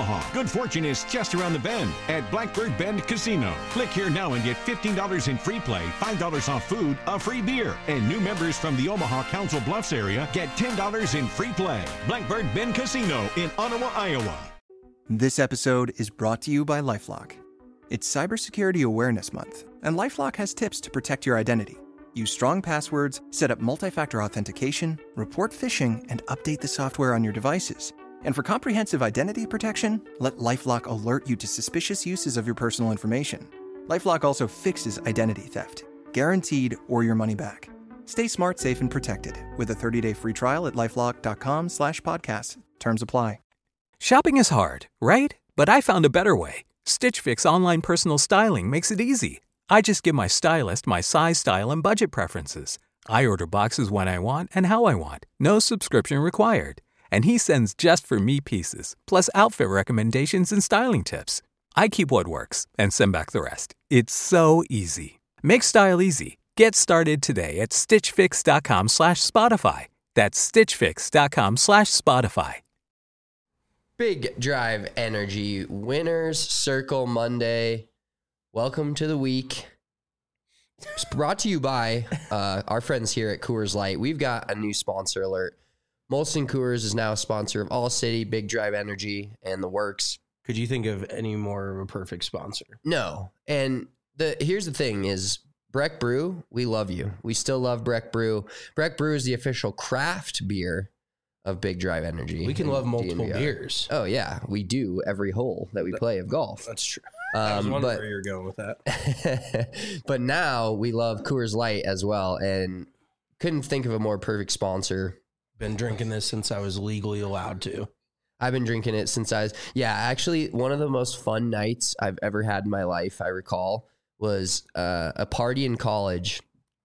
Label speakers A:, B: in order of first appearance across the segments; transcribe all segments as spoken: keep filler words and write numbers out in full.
A: Omaha. Good fortune is just around the bend at Blackbird Bend Casino. Click here now and get fifteen dollars in free play, five dollars off food, a free beer. And new members from the Omaha Council Bluffs area get ten dollars in free play. Blackbird Bend Casino in Ottawa, Iowa.
B: This episode is brought to you by LifeLock. It's Cybersecurity Awareness Month, and LifeLock has tips to protect your identity. Use strong passwords, set up multi-factor authentication, report phishing, and update the software on your devices. And for comprehensive identity protection, let LifeLock alert you to suspicious uses of your personal information. LifeLock also fixes identity theft, guaranteed or your money back. Stay smart, safe, and protected with a thirty-day free trial at LifeLock.com slash podcast. Terms apply.
C: Shopping is hard, right? But I found a better way. Stitch Fix online personal styling makes it easy. I just give my stylist my size, style, and budget preferences. I order boxes when I want and how I want. No subscription required. And he sends just for me pieces, plus outfit recommendations and styling tips. I keep what works and send back the rest. It's so easy. Make style easy. Get started today at stitchfix.com slash Spotify. That's stitchfix.com slash Spotify.
D: Big Drive Energy Winners Circle Monday. Welcome to the week. It's brought to you by uh, our friends here at Coors Light. We've got a new sponsor alert. Molson Coors is now a sponsor of All City, Big Drive Energy, and the works.
E: Could you think of any more of a perfect sponsor?
D: No. And the here's the thing is, Breck Brew, we love you. We still love Breck Brew. Breck Brew is the official craft beer of Big Drive Energy.
E: We can love multiple
D: D N V R.
E: beers.
D: Oh, yeah. We do every hole that we play of golf.
E: That's true.
D: Um,
E: I was wondering
D: but,
E: where you're going with that.
D: But now we love Coors Light as well, and couldn't think of a more perfect sponsor.
E: Been drinking this since I was legally allowed to.
D: I've been drinking it since I was, yeah, actually one of the most fun nights I've ever had in my life, I recall, was uh, a party in college.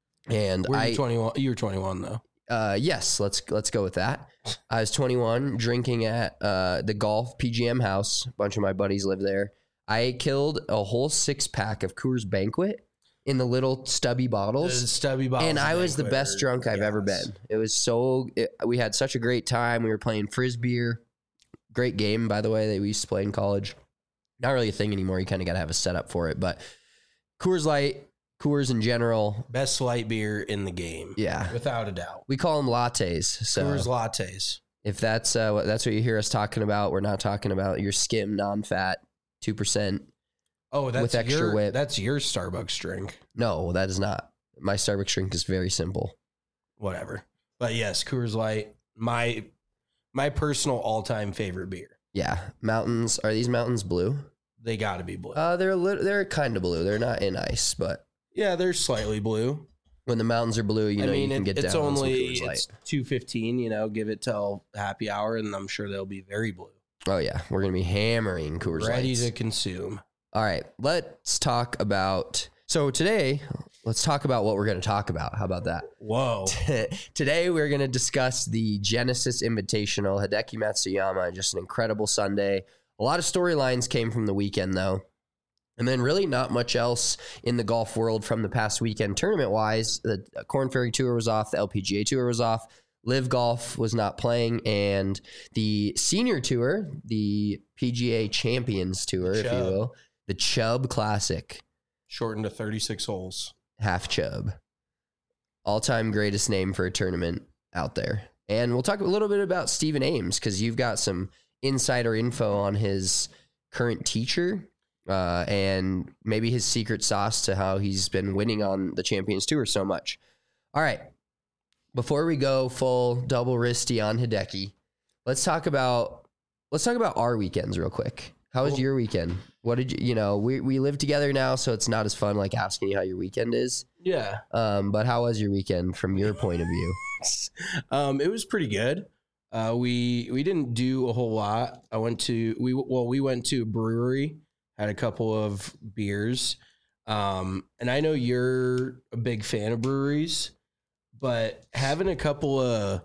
D: And
E: Were you
D: I,
E: twenty-one? You were twenty-one though.
D: Uh, yes, let's, let's go with that. I was twenty-one, drinking at uh, the golf P G M house. A bunch of my buddies live there. I killed a whole six pack of Coors Banquet in the little stubby bottles.
E: The stubby bottles.
D: And I was the
E: Banquet
D: best
E: are-
D: drunk I've
E: yes.
D: ever been. It was so, it, we had such a great time. We were playing Frisbee. Great game, by the way, that we used to play in college. Not really a thing anymore. You kind of got to have a setup for it. But Coors Light, Coors in general.
E: Best light beer in the game.
D: Yeah.
E: Without a doubt.
D: We call them lattes. So
E: Coors lattes.
D: if that's, uh, what, that's what you hear us talking about, we're not talking about your skim, non-fat, two percent.
E: Oh, that's
D: with extra
E: your,
D: whip.
E: That's your Starbucks drink.
D: No, that is not. My Starbucks drink is very simple.
E: Whatever. But yes, Coors Light, my my personal all-time favorite beer.
D: Yeah. Mountains. Are these mountains blue?
E: They got to be blue.
D: Uh, they're a little, they're kind of blue. They're not in ice, but
E: yeah, they're slightly blue.
D: when the mountains are blue, you
E: I
D: know
E: mean,
D: you can
E: it,
D: get
E: it's
D: down on some
E: only
D: Coors Light.
E: it's two fifteen. You know, give it till happy hour, and I'm sure they'll be very blue,
D: Oh yeah, we're gonna be hammering Coors
E: ready
D: Lights.
E: to consume.
D: All right, let's talk about. So today, let's talk about what we're going to talk about. How about that?
E: Whoa!
D: Today we're going to discuss the Genesis Invitational, Hideki Matsuyama. Just an incredible Sunday. A lot of storylines came from the weekend, though. And then really not much else in the golf world from the past weekend. Tournament-wise, the Korn Ferry Tour was off. The L P G A Tour was off. Live Golf was not playing. And the Senior Tour, the P G A Champions Tour, if you will, the Chubb Classic.
E: Shortened to thirty-six holes.
D: Half Chubb. All-time greatest name for a tournament out there. And we'll talk a little bit about Stephen Ames, because you've got some insider info on his current teacher uh, and maybe his secret sauce to how he's been winning on the Champions Tour so much. All right. Before we go full double wristy on Hideki, let's talk about let's talk about our weekends real quick. How was
E: Cool.
D: your weekend? What did you, you know, we, we live together now, so it's not as fun like asking you how your weekend is.
E: Yeah.
D: Um, but how was your weekend from your point of view?
E: Um, it was pretty good. Uh, we we didn't do a whole lot. I went to we well we went to a brewery, had a couple of beers, um, and I know you're a big fan of breweries, but having a couple of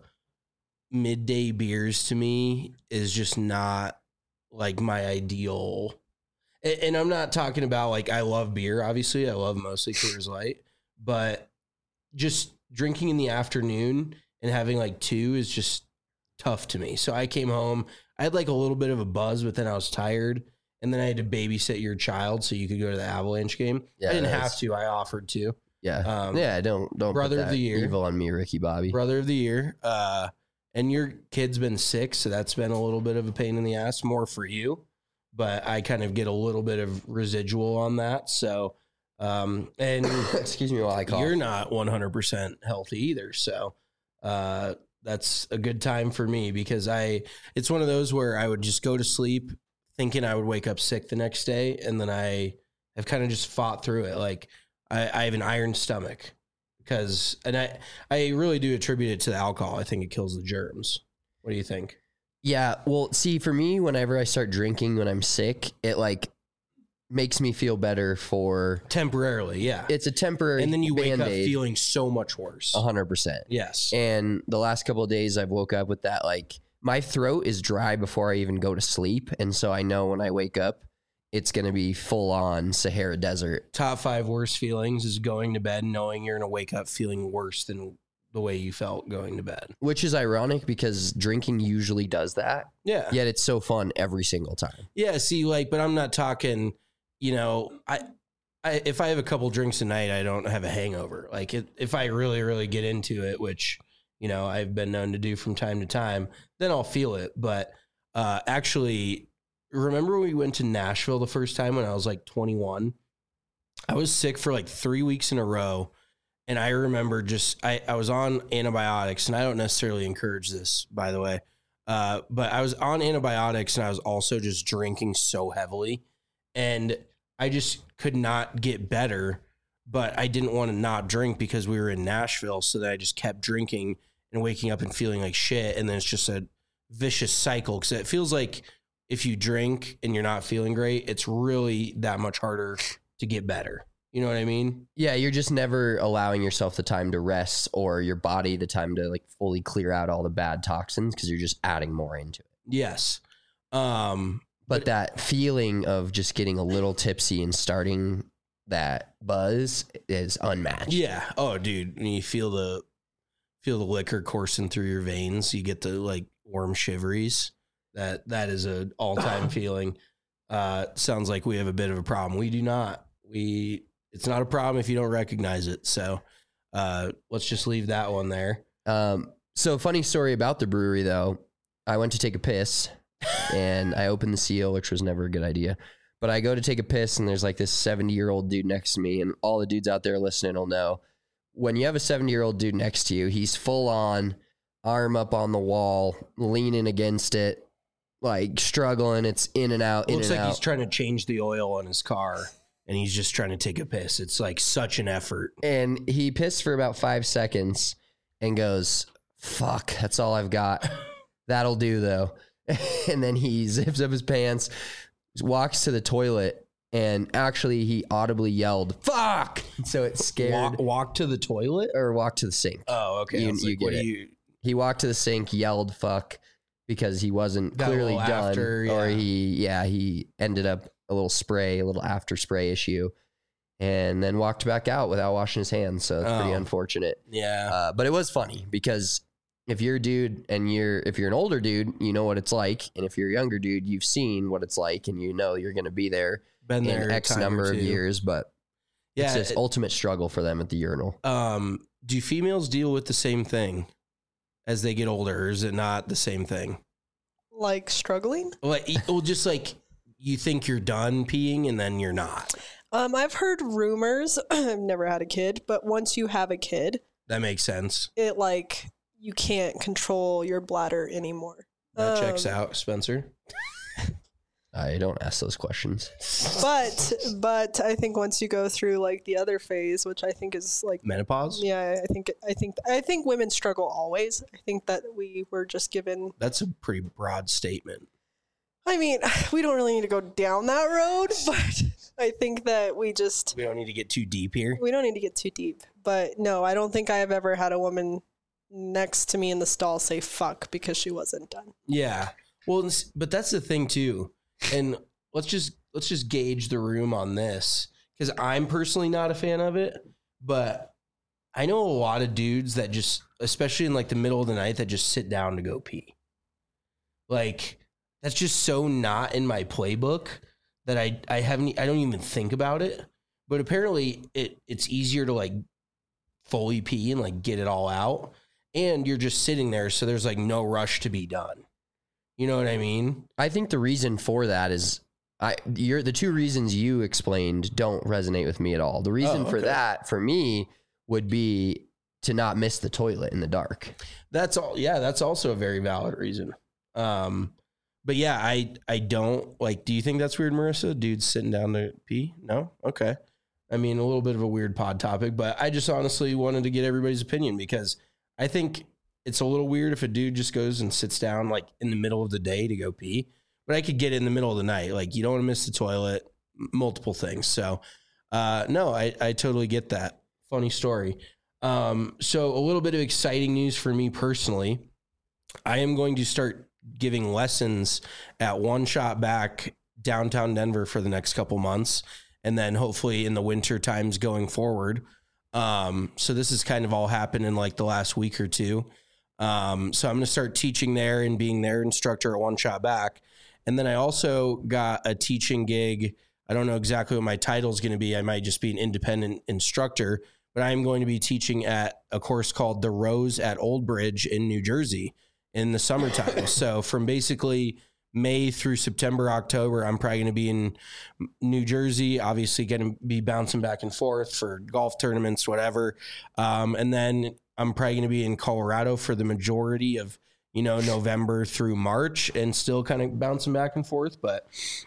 E: midday beers to me is just not like my ideal. And, and I'm not talking about like I love beer. Obviously, I love mostly Coors Light, but just drinking in the afternoon and having like two is just tough to me. So I came home, I had like a little bit of a buzz, but then I was tired. And then I had to babysit your child so you could go to the Avalanche game.
D: Yeah,
E: I didn't
D: that's-
E: have to. I offered to.
D: Yeah.
E: Um,
D: yeah. Don't, don't
E: brother
D: put
E: of
D: that
E: the year.
D: evil on me, Ricky Bobby.
E: Brother of the year. Uh, and your kid's been sick, so that's been a little bit of a pain in the ass, more for you. But I kind of get a little bit of residual on that. So, um, and
D: excuse me while I cough.
E: you're not one hundred percent healthy either. So, uh, that's a good time for me because I, it's one of those where I would just go to sleep thinking I would wake up sick the next day. And then I have kind of just fought through it. Like I, I have an iron stomach because, and I, I really do attribute it to the alcohol. I think it kills the germs. What do you think?
D: Yeah. Well, see, for me, whenever I start drinking when I'm sick, it like makes me feel better for
E: Temporarily. Yeah.
D: it's a temporary
E: And then you wake up
D: Band-Aid,
E: feeling so much worse.
D: a hundred percent.
E: Yes.
D: And the last couple of days I've woke up with that, like my throat is dry before I even go to sleep. And so I know when I wake up, it's going to be full on Sahara Desert.
E: Top five worst feelings is going to bed knowing you're going to wake up feeling worse than the way you felt going to bed.
D: Which is ironic because drinking usually does that.
E: Yeah.
D: Yet it's so fun every single time.
E: Yeah. See, like, but I'm not talking, you know, I, I, if I have a couple drinks a night, I don't have a hangover. Like it, if I really, really get into it, which, you know, I've been known to do from time to time, then I'll feel it. But uh, actually, remember when we went to Nashville the first time when I was like twenty-one? I was sick for like three weeks in a row. And I remember just, I, I was on antibiotics, and I don't necessarily encourage this, by the way. Uh, but I was on antibiotics, and I was also just drinking so heavily. And I just could not get better, but I didn't want to not drink because we were in Nashville. So that I just kept drinking and waking up and feeling like shit. And then it's just a vicious cycle because it feels like if you drink and you're not feeling great, it's really that much harder to get better. You know what I mean?
D: Yeah, you're just never allowing yourself the time to rest or your body the time to like fully clear out all the bad toxins because you're just adding more into it.
E: Yes. Um,
D: But that feeling of just getting a little tipsy and starting that buzz is unmatched.
E: yeah. Oh, dude, when you feel the feel the liquor coursing through your veins, you get the like warm shiveries. That that is an all time feeling. Uh, sounds like we have a bit of a problem. We do not. We it's not a problem if you don't recognize it. So uh, let's just leave that one there.
D: Um, so funny story about the brewery though. I went to take a piss and I opened the seal, which was never a good idea. But I go to take a piss and there's like this seventy year old dude next to me, and all the dudes out there listening will know when you have a seventy year old dude next to you, he's full on arm up on the wall, leaning against it, like struggling. It's in and out.
E: It
D: in
E: looks
D: and
E: like
D: out.
E: he's trying to change the oil on his car, and he's just trying to take a piss. It's like such an effort.
D: And he pissed for about five seconds and goes, fuck, that's all I've got. That'll do though. And then he zips up his pants, walks to the toilet, and actually he audibly yelled, fuck. So it scared
E: Walk, walk to the toilet?
D: or walked to the sink.
E: Oh, okay.
D: You-
E: I was
D: you
E: like,
D: get
E: what do
D: it.
E: you?
D: He walked to the sink, yelled fuck because he wasn't
E: Got a
D: clearly
E: little
D: done.
E: after,
D: Or
E: yeah.
D: he, yeah, he ended up a little spray, a little after spray issue, and then walked back out without washing his hands. So it's pretty
E: Oh.
D: unfortunate.
E: Yeah.
D: Uh, but it was funny because if you're a dude and you're, if you're an older dude, you know what it's like. And if you're a younger dude, you've seen what it's like and you know you're going to be there
E: Been there
D: in
E: a
D: X
E: time or
D: number of
E: two.
D: years. But
E: Yeah.
D: it's this
E: it-
D: ultimate struggle for them at the urinal.
E: um, do females deal with the same thing as they get older, or is it not the same thing?
F: Like struggling?
E: Like, well, just like you think you're done peeing and then you're not.
F: Um, I've heard rumors. I've never had a kid, but once you have a kid,
E: That makes sense.
F: it like you can't control your bladder anymore.
E: That checks
F: Um,
E: out, Spencer.
D: I don't ask those questions.
F: But but I think once you go through like the other phase, which I think is like
E: Menopause?
F: yeah, I think I think I think women struggle always. I think that we were just given.
E: That's a pretty broad statement.
F: I mean, we don't really need to go down that road, but I think that we just
E: We don't need to get too deep here.
F: we don't need to get too deep. But no, I don't think I have ever had a woman next to me in the stall say fuck because she wasn't done.
E: Yeah. Well, it's- but that's the thing too. And let's just let's just gauge the room on this, because I'm personally not a fan of it, but I know a lot of dudes that just, especially in like the middle of the night, that just sit down to go pee. Like that's just so not in my playbook that I, I haven't, I don't even think about it. But apparently it it's easier to like fully pee and like get it all out. And you're just sitting there. So there's like no rush to be done. You know what I mean?
D: I think the reason for that is I you're the two reasons you explained don't resonate with me at all. The reason
E: Oh, okay.
D: for that for me would be to not miss the toilet in the dark.
E: That's all. Yeah, that's also a very valid reason. Um, but yeah, I I don't like. Do you think that's weird, Marissa? Dudes sitting down to pee? No. Okay. I mean, a little bit of a weird pod topic, but I just honestly wanted to get everybody's opinion because I think it's a little weird if a dude just goes and sits down like in the middle of the day to go pee. But I could get it in the middle of the night. Like you don't want to miss the toilet. Multiple things. So uh, no, I I totally get that. Funny story. Um, so a little bit of exciting news for me personally. I am going to start giving lessons at One Shot Back downtown Denver for the next couple months. And then hopefully in the winter times going forward. Um, so this has kind of all happened in like the last week or two. Um, so I'm going to start teaching there and being their instructor at One Shot Back. And then I also got a teaching gig. I don't know exactly what my title is going to be. I might just be an independent instructor, but I'm going to be teaching at a course called The Rose at Old Bridge in New Jersey in the summertime. So from basically May through September, October, I'm probably going to be in New Jersey, obviously going to be bouncing back and forth for golf tournaments, whatever. Um, and then I'm probably going to be in Colorado for the majority of, you know, November through March and still kind of bouncing back and forth. But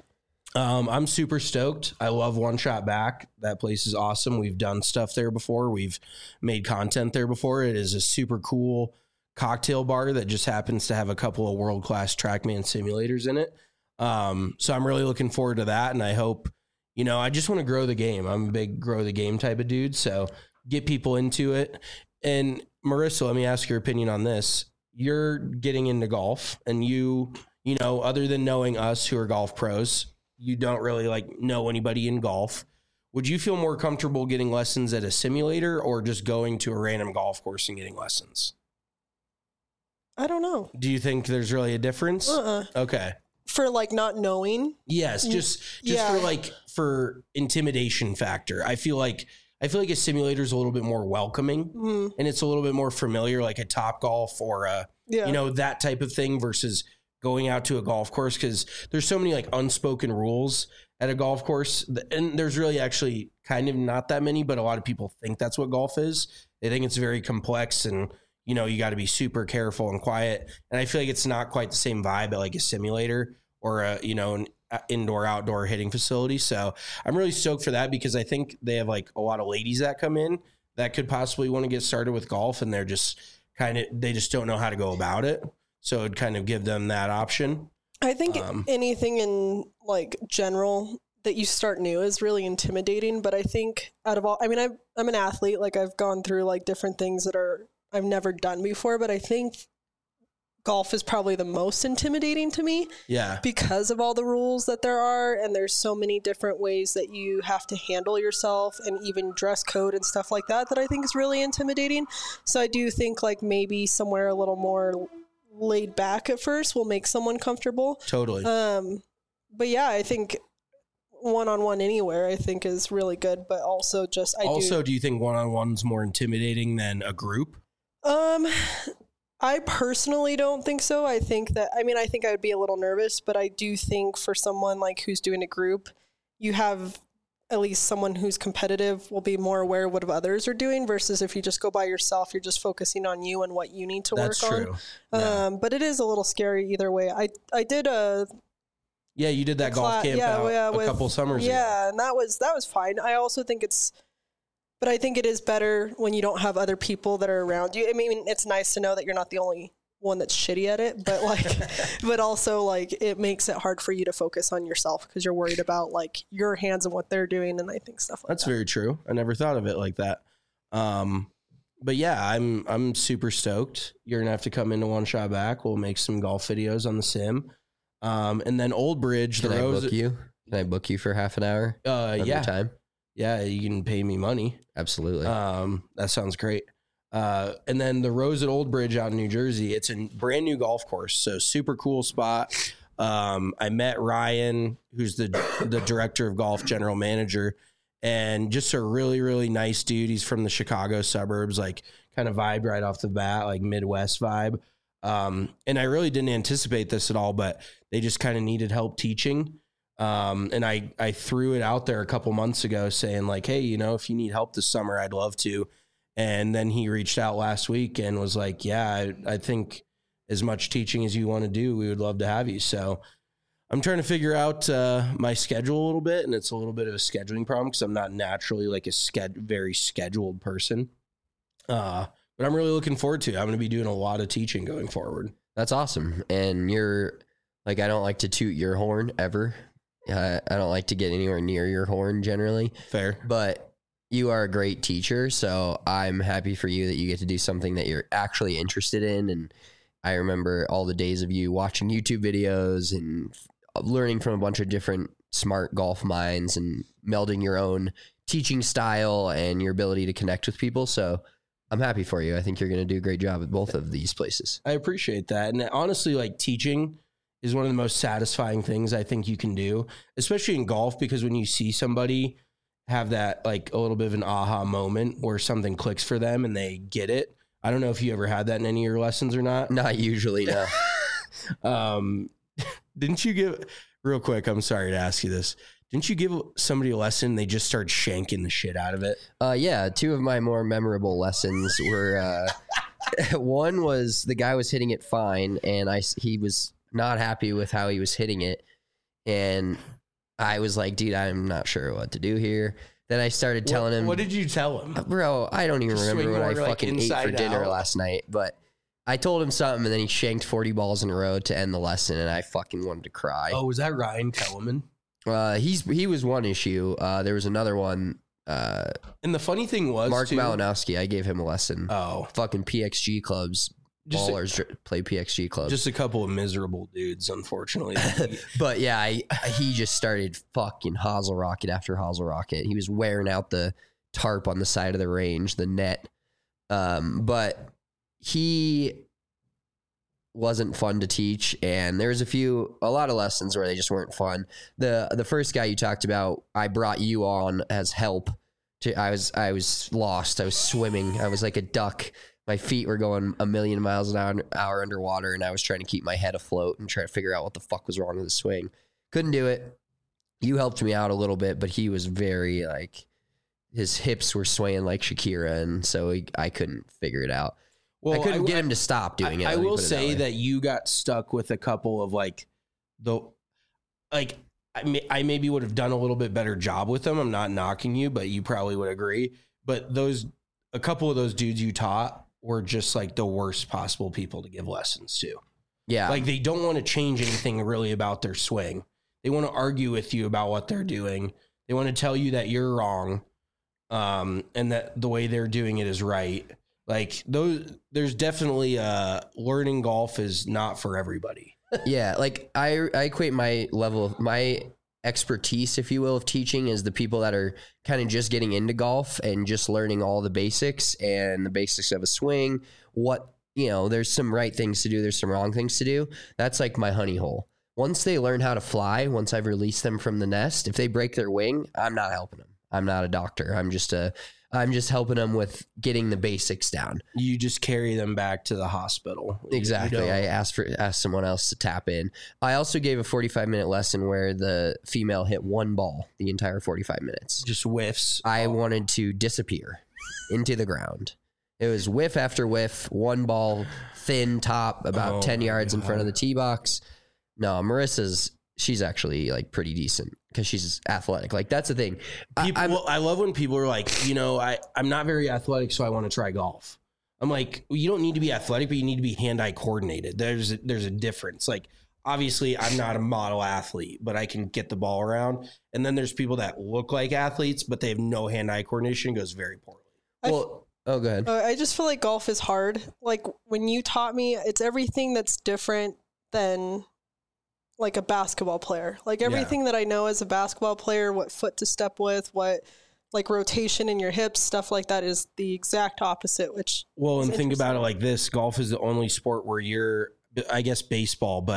E: um, I'm super stoked. I love One Shot Back. That place is awesome. We've done stuff there before. We've made content there before. It is a super cool cocktail bar that just happens to have a couple of world-class TrackMan simulators in it. Um, so I'm really looking forward to that. And I hope, you know, I just want to grow the game. I'm a big grow the game type of dude. So get people into it. And Marissa, let me ask your opinion on this. You're getting into golf and you, you know, other than knowing us who are golf pros, you don't really like know anybody in golf. Would you feel more comfortable getting lessons at a simulator or just going to a random golf course and getting lessons?
F: I don't know.
E: Do you think there's really a difference?
F: Uh-uh.
E: Okay.
F: For like not knowing.
E: Yes, just just
F: Yeah.
E: for like for intimidation factor. I feel like I feel like a simulator is a little bit more welcoming
F: Mm,
E: and it's a little bit more familiar, like a Top Golf or a
F: yeah.
E: you know that type of thing versus going out to a golf course because there's so many like unspoken rules at a golf course, and there's really actually kind of not that many, but a lot of people think that's what golf is. They think it's very complex and you know, you got to be super careful and quiet. And I feel like it's not quite the same vibe at like a simulator or a, you know, an indoor outdoor hitting facility. So I'm really stoked for that because I think they have like a lot of ladies that come in that could possibly want to get started with golf and they're just kind of, they just don't know how to go about it. So it'd kind of give them that option.
F: I think
E: Um,
F: anything in like general that you start new is really intimidating. But I think out of all, I mean, I'm, I'm an athlete. Like I've gone through like different things that are, I've never done before, but I think golf is probably the most intimidating to me
E: Yeah.
F: because of all the rules that there are. And there's so many different ways that you have to handle yourself and even dress code and stuff like that, that I think is really intimidating. So I do think like maybe somewhere a little more laid back at first will make someone comfortable.
E: Totally.
F: Um, but yeah, I think one-on-one anywhere I think is really good, but also just, I
E: also,
F: do,
E: do you think one-on-one's more intimidating than a group?
F: Um, I personally don't think so. I think that, I mean, I think I would be a little nervous, but I do think for someone like who's doing a group, you have at least someone who's competitive will be more aware of what others are doing versus if you just go by yourself, you're just focusing on you and what you need to
E: That's
F: work
E: true.
F: on.
E: Yeah.
F: Um, but it is a little scary either way. I, I did a,
E: Yeah, you did that
F: a
E: golf
F: cla-
E: camp
F: yeah,
E: out
F: yeah,
E: a
F: with-
E: couple summers ago.
F: yeah, and that was, that was fine. I also think it's, but I think it is better when you don't have other people that are around you. I mean, it's nice to know that you're not the only one that's shitty at it, but like, but also like it makes it hard for you to focus on yourself because you're worried about like your hands and what they're doing. And I think stuff like
E: That's
F: that.
E: very true. I never thought of it like that. Um, but yeah, I'm I'm super stoked. You're gonna have to come into One Shot Back. We'll make some golf videos on the sim. Um, and then Old Bridge,
D: Can
E: the
D: I
E: Rose.
D: book you? Can I book you for half an hour
E: Uh,
D: of
E: yeah,
D: your time?
E: yeah, you can pay me money.
D: Absolutely.
E: Um, that sounds great. Uh, and then the Rose at Old Bridge out in New Jersey. It's a brand new golf course, so super cool spot. Um, I met Ryan, who's the the director of golf, general manager, and just a really, really nice dude. He's from the Chicago suburbs, like kind of vibe right off the bat, like Midwest vibe. Um, and I really didn't anticipate this at all, but they just kind of needed help teaching. Um, and I, I threw it out there a couple months ago saying like, hey, you know, if you need help this summer, I'd love to. And then he reached out last week and was like, yeah, I, I think as much teaching as you want to do, we would love to have you. So I'm trying to figure out uh, my schedule a little bit, and it's a little bit of a scheduling problem because I'm not naturally like a sched- very scheduled person. Uh, but I'm really looking forward to it. I'm going to be doing a lot of teaching going forward.
D: That's awesome. And you're like, I don't like to toot your horn ever. Uh, I don't like to get anywhere near your horn generally.
E: Fair.
D: But you are a great teacher, so I'm happy for you that you get to do something that you're actually interested in. And I remember all the days of you watching YouTube videos and learning from a bunch of different smart golf minds and melding your own teaching style and your ability to connect with people. So I'm happy for you. I think you're going to do a great job at both of these places.
E: I appreciate that. And honestly, like teaching is one of the most satisfying things I think you can do, especially in golf, because when you see somebody have that like a little bit of an aha moment where something clicks for them and they get it. I don't know if you ever had that in any of your lessons or not.
D: Not usually, no.
E: um, didn't you give, real quick, I'm sorry to ask you this. Didn't you give somebody a lesson? They just start shanking the shit out of it.
D: Uh, yeah. Two of my more memorable lessons were, uh, one was the guy was hitting it fine and I, he was not happy with how he was hitting it. And I was like, dude, I'm not sure what to do here. Then I started telling
E: what,
D: him.
E: What did you tell him?
D: Bro, I don't even
E: Just
D: remember what I
E: like
D: fucking ate for dinner
E: out.
D: last night. But I told him something, and then he shanked forty balls in a row to end the lesson, and I fucking wanted to cry.
E: Oh, was that Ryan Kellerman?
D: Uh, he's He was one issue. Uh, there was another one. Uh,
E: and the funny thing was,
D: Mark
E: too,
D: Malinowski, I gave him a lesson.
E: Oh.
D: Fucking P X G clubs.
E: Just
D: Ballers a, play P X G clubs.
E: Just a couple of miserable dudes, unfortunately.
D: But yeah, I, he just started fucking hosel rocket after hosel rocket. He was wearing out the tarp on the side of the range, the net. Um, but he wasn't fun to teach, and there was a few, a lot of lessons where they just weren't fun. The the first guy you talked about, I brought you on as help. To I was I was lost. I was swimming. I was like a duck. My feet were going a million miles an hour underwater, and I was trying to keep my head afloat and try to figure out what the fuck was wrong with the swing. Couldn't do it. You helped me out a little bit, but he was very, like, his hips were swaying like Shakira, and so he, I couldn't figure it out. Well, I couldn't I, get him to stop doing
E: I,
D: it.
E: I will say that, that you got stuck with a couple of, like, the, like, I, may, I maybe would have done a little bit better job with them. I'm not knocking you, but you probably would agree. But those, a couple of those dudes you taught were just like the worst possible people to give lessons to.
D: Yeah.
E: Like they don't want to change anything really about their swing. They want to argue with you about what they're doing. They want to tell you that you're wrong. Um, and that the way they're doing it is right. Like those, there's definitely uh learning golf is not for everybody.
D: Yeah. Like I, I equate my level of my expertise, if you will, of teaching is the people that are kind of just getting into golf and just learning all the basics and the basics of a swing. What, you know, there's some right things to do. There's some wrong things to do. That's like my honey hole. Once they learn how to fly, once I've released them from the nest, if they break their wing, I'm not helping them. I'm not a doctor. I'm just a, I'm just helping them with getting the basics down.
E: You just carry them back to the hospital.
D: Exactly. I asked for asked someone else to tap in. I also gave a forty-five minute lesson where the female hit one ball the entire forty-five minutes.
E: Just whiffs.
D: I wanted to disappear into the ground. It was whiff after whiff, one ball, thin top, about oh ten yards God. in front of the tee box. No, Marissa's, she's actually like pretty decent because she's athletic. Like that's the thing.
E: People, I, well, I love when people are like, you know, I, I'm not very athletic, so I want to try golf. I'm like, well, you don't need to be athletic, but you need to be hand-eye coordinated. There's a, there's a difference. Like, obviously, I'm not a model athlete, but I can get the ball around. And then there's people that look like athletes, but they have no hand-eye coordination. It goes very poorly.
D: Well, oh, go ahead.
F: I just feel like golf is hard. Like when you taught me, it's everything that's different than like a basketball player. Like everything yeah. that I know as a basketball player, what foot to step with, what like rotation in your hips, stuff like that is the exact opposite, which
E: well, and think about it like this. Golf is the only sport where you're, I guess baseball, but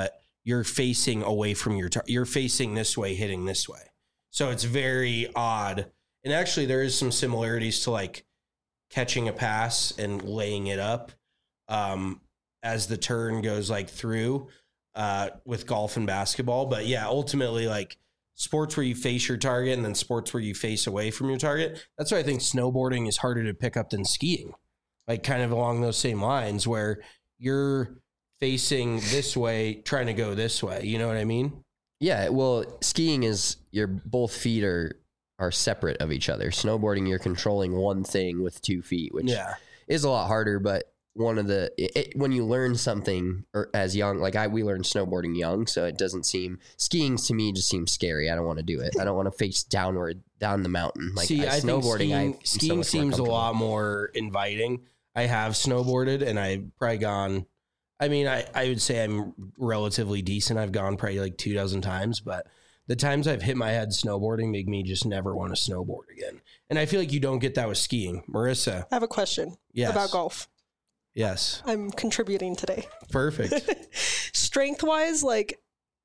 E: you're facing away from your, tar- you're facing this way, hitting this way. So it's very odd. And actually there is some similarities to like catching a pass and laying it up um, as the turn goes like through uh, with golf and basketball. But yeah, ultimately like sports where you face your target and then sports where you face away from your target. That's why I think snowboarding is harder to pick up than skiing, like kind of along those same lines where you're facing this way, trying to go this way. You know what I mean?
D: Yeah. Well, skiing is your both feet are, are separate of each other. Snowboarding, you're controlling one thing with two feet, which
E: yeah.
D: is a lot harder. But one of the, it, when you learn something or as young, like I, we learned snowboarding young. So it doesn't seem, skiing to me just seems scary. I don't want to do it. I don't want to face downward down the mountain. Like
E: See,
D: I,
E: I
D: snowboarding,
E: skiing,
D: I,
E: skiing
D: so
E: seems a lot more inviting. I have snowboarded and I've probably gone, I mean, I, I would say I'm relatively decent. I've gone probably like two dozen times, but the times I've hit my head snowboarding make me just never want to snowboard again. And I feel like you don't get that with skiing. Marissa.
F: I have a question
E: yes.
F: about golf.
E: Yes.
F: I'm contributing today.
E: Perfect.
F: Strength wise, like,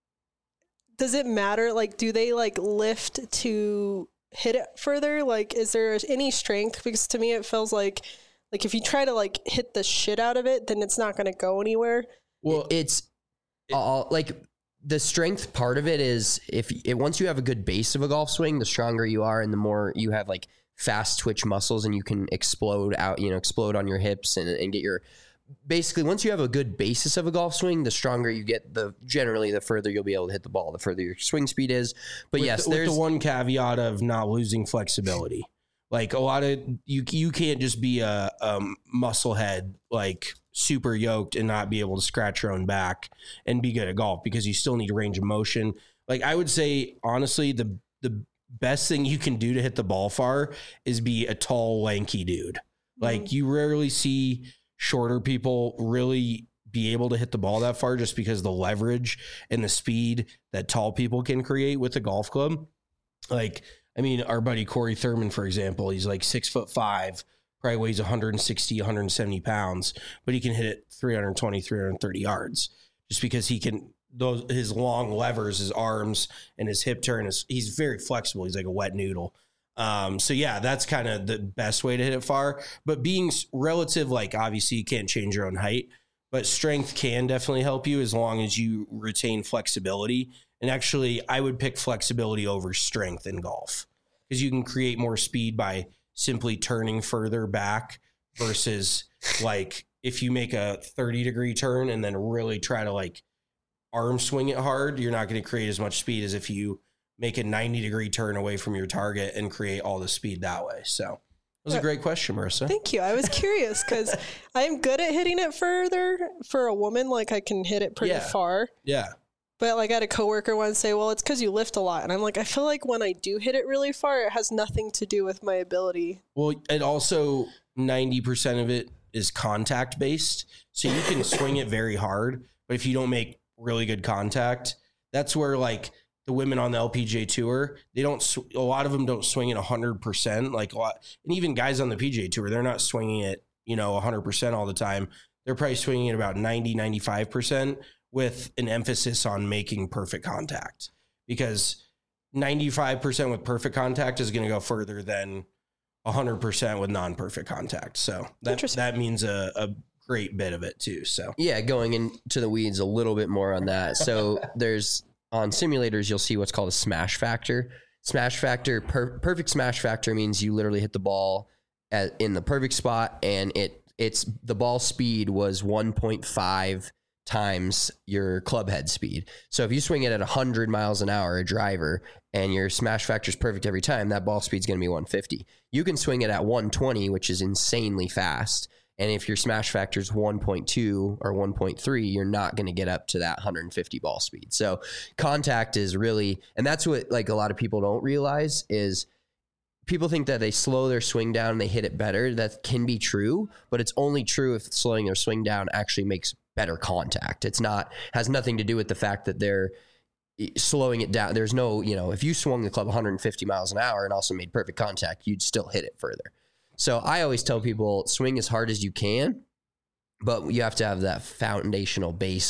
F: does it matter? Like, do they like lift to hit it further? Like, is there any strength? Because to me, it feels like, like if you try to like hit the shit out of it, then it's not going to go anywhere.
D: Well, it's it, all like the strength part of it is if it, once you have a good base of a golf swing, the stronger you are and the more you have like fast twitch muscles and you can explode out, you know, explode on your hips and, and get your, basically once you have a good basis of a golf swing, the stronger you get, the generally the further you'll be able to hit the ball, the further your swing speed is. But
E: with
D: yes,
E: the,
D: there's
E: with the one caveat of not losing flexibility. Like a lot of you, you can't just be a um, muscle head, like super yoked and not be able to scratch your own back and be good at golf because you still need a range of motion. Like I would say, honestly, the, the best thing you can do to hit the ball far is be a tall, lanky dude. Mm-hmm. Like you rarely see shorter people really be able to hit the ball that far just because the leverage and the speed that tall people can create with a golf club. Like, I mean, our buddy Corey Thurman, for example, he's like six foot five, probably weighs one sixty, one seventy pounds, but he can hit it three twenty, three thirty yards just because he can, those, his long levers, his arms and his hip turn is, he's very flexible. He's like a wet noodle. Um, so yeah, that's kind of the best way to hit it far, but being relative, like obviously you can't change your own height, but strength can definitely help you as long as you retain flexibility. And actually, I would pick flexibility over strength in golf because you can create more speed by simply turning further back versus like if you make a thirty degree turn and then really try to like arm swing it hard, you're not going to create as much speed as if you make a ninety degree turn away from your target and create all the speed that way. So it was a great question, Marissa.
F: Thank you. I was curious because I'm good at hitting it further for a woman. Like I can hit it pretty
E: Yeah.
F: far.
E: Yeah.
F: But like I had a coworker once say, well, it's because you lift a lot. And I'm like, I feel like when I do hit it really far, it has nothing to do with my ability.
E: Well, and also ninety percent of it is contact based. So you can swing it very hard, but if you don't make really good contact, that's where like the women on the L P G A tour, they don't, sw- a lot of them don't swing it a hundred percent. Like a lot, and even guys on the P G A tour, they're not swinging it, you know, a hundred percent all the time. They're probably swinging it about ninety, ninety-five percent with an emphasis on making perfect contact because ninety-five percent with perfect contact is going to go further than one hundred percent with non-perfect contact. So that, that means a, a great bit of it too. So
D: yeah, going into the weeds a little bit more on that. So there's on simulators, you'll see what's called a smash factor. Smash factor, per, perfect smash factor means you literally hit the ball at, in the perfect spot and it it's the ball speed was one point five times your club head speed. So if you swing it at one hundred miles an hour, a driver, and your smash factor is perfect every time, that ball speed is going to be one fifty. You can swing it at one twenty, which is insanely fast. And if your smash factor is one point two or one point three, you're not going to get up to that one hundred fifty ball speed. So contact is really, and that's what like a lot of people don't realize is people think that they slow their swing down and they hit it better. That can be true, but it's only true if slowing their swing down actually makes better contact. It's not, has nothing to do with the fact that they're slowing it down. There's no, you know, if you swung the club one hundred fifty miles an hour and also made perfect contact, you'd still hit it further. So I always tell people swing as hard as you can, but you have to have that foundational base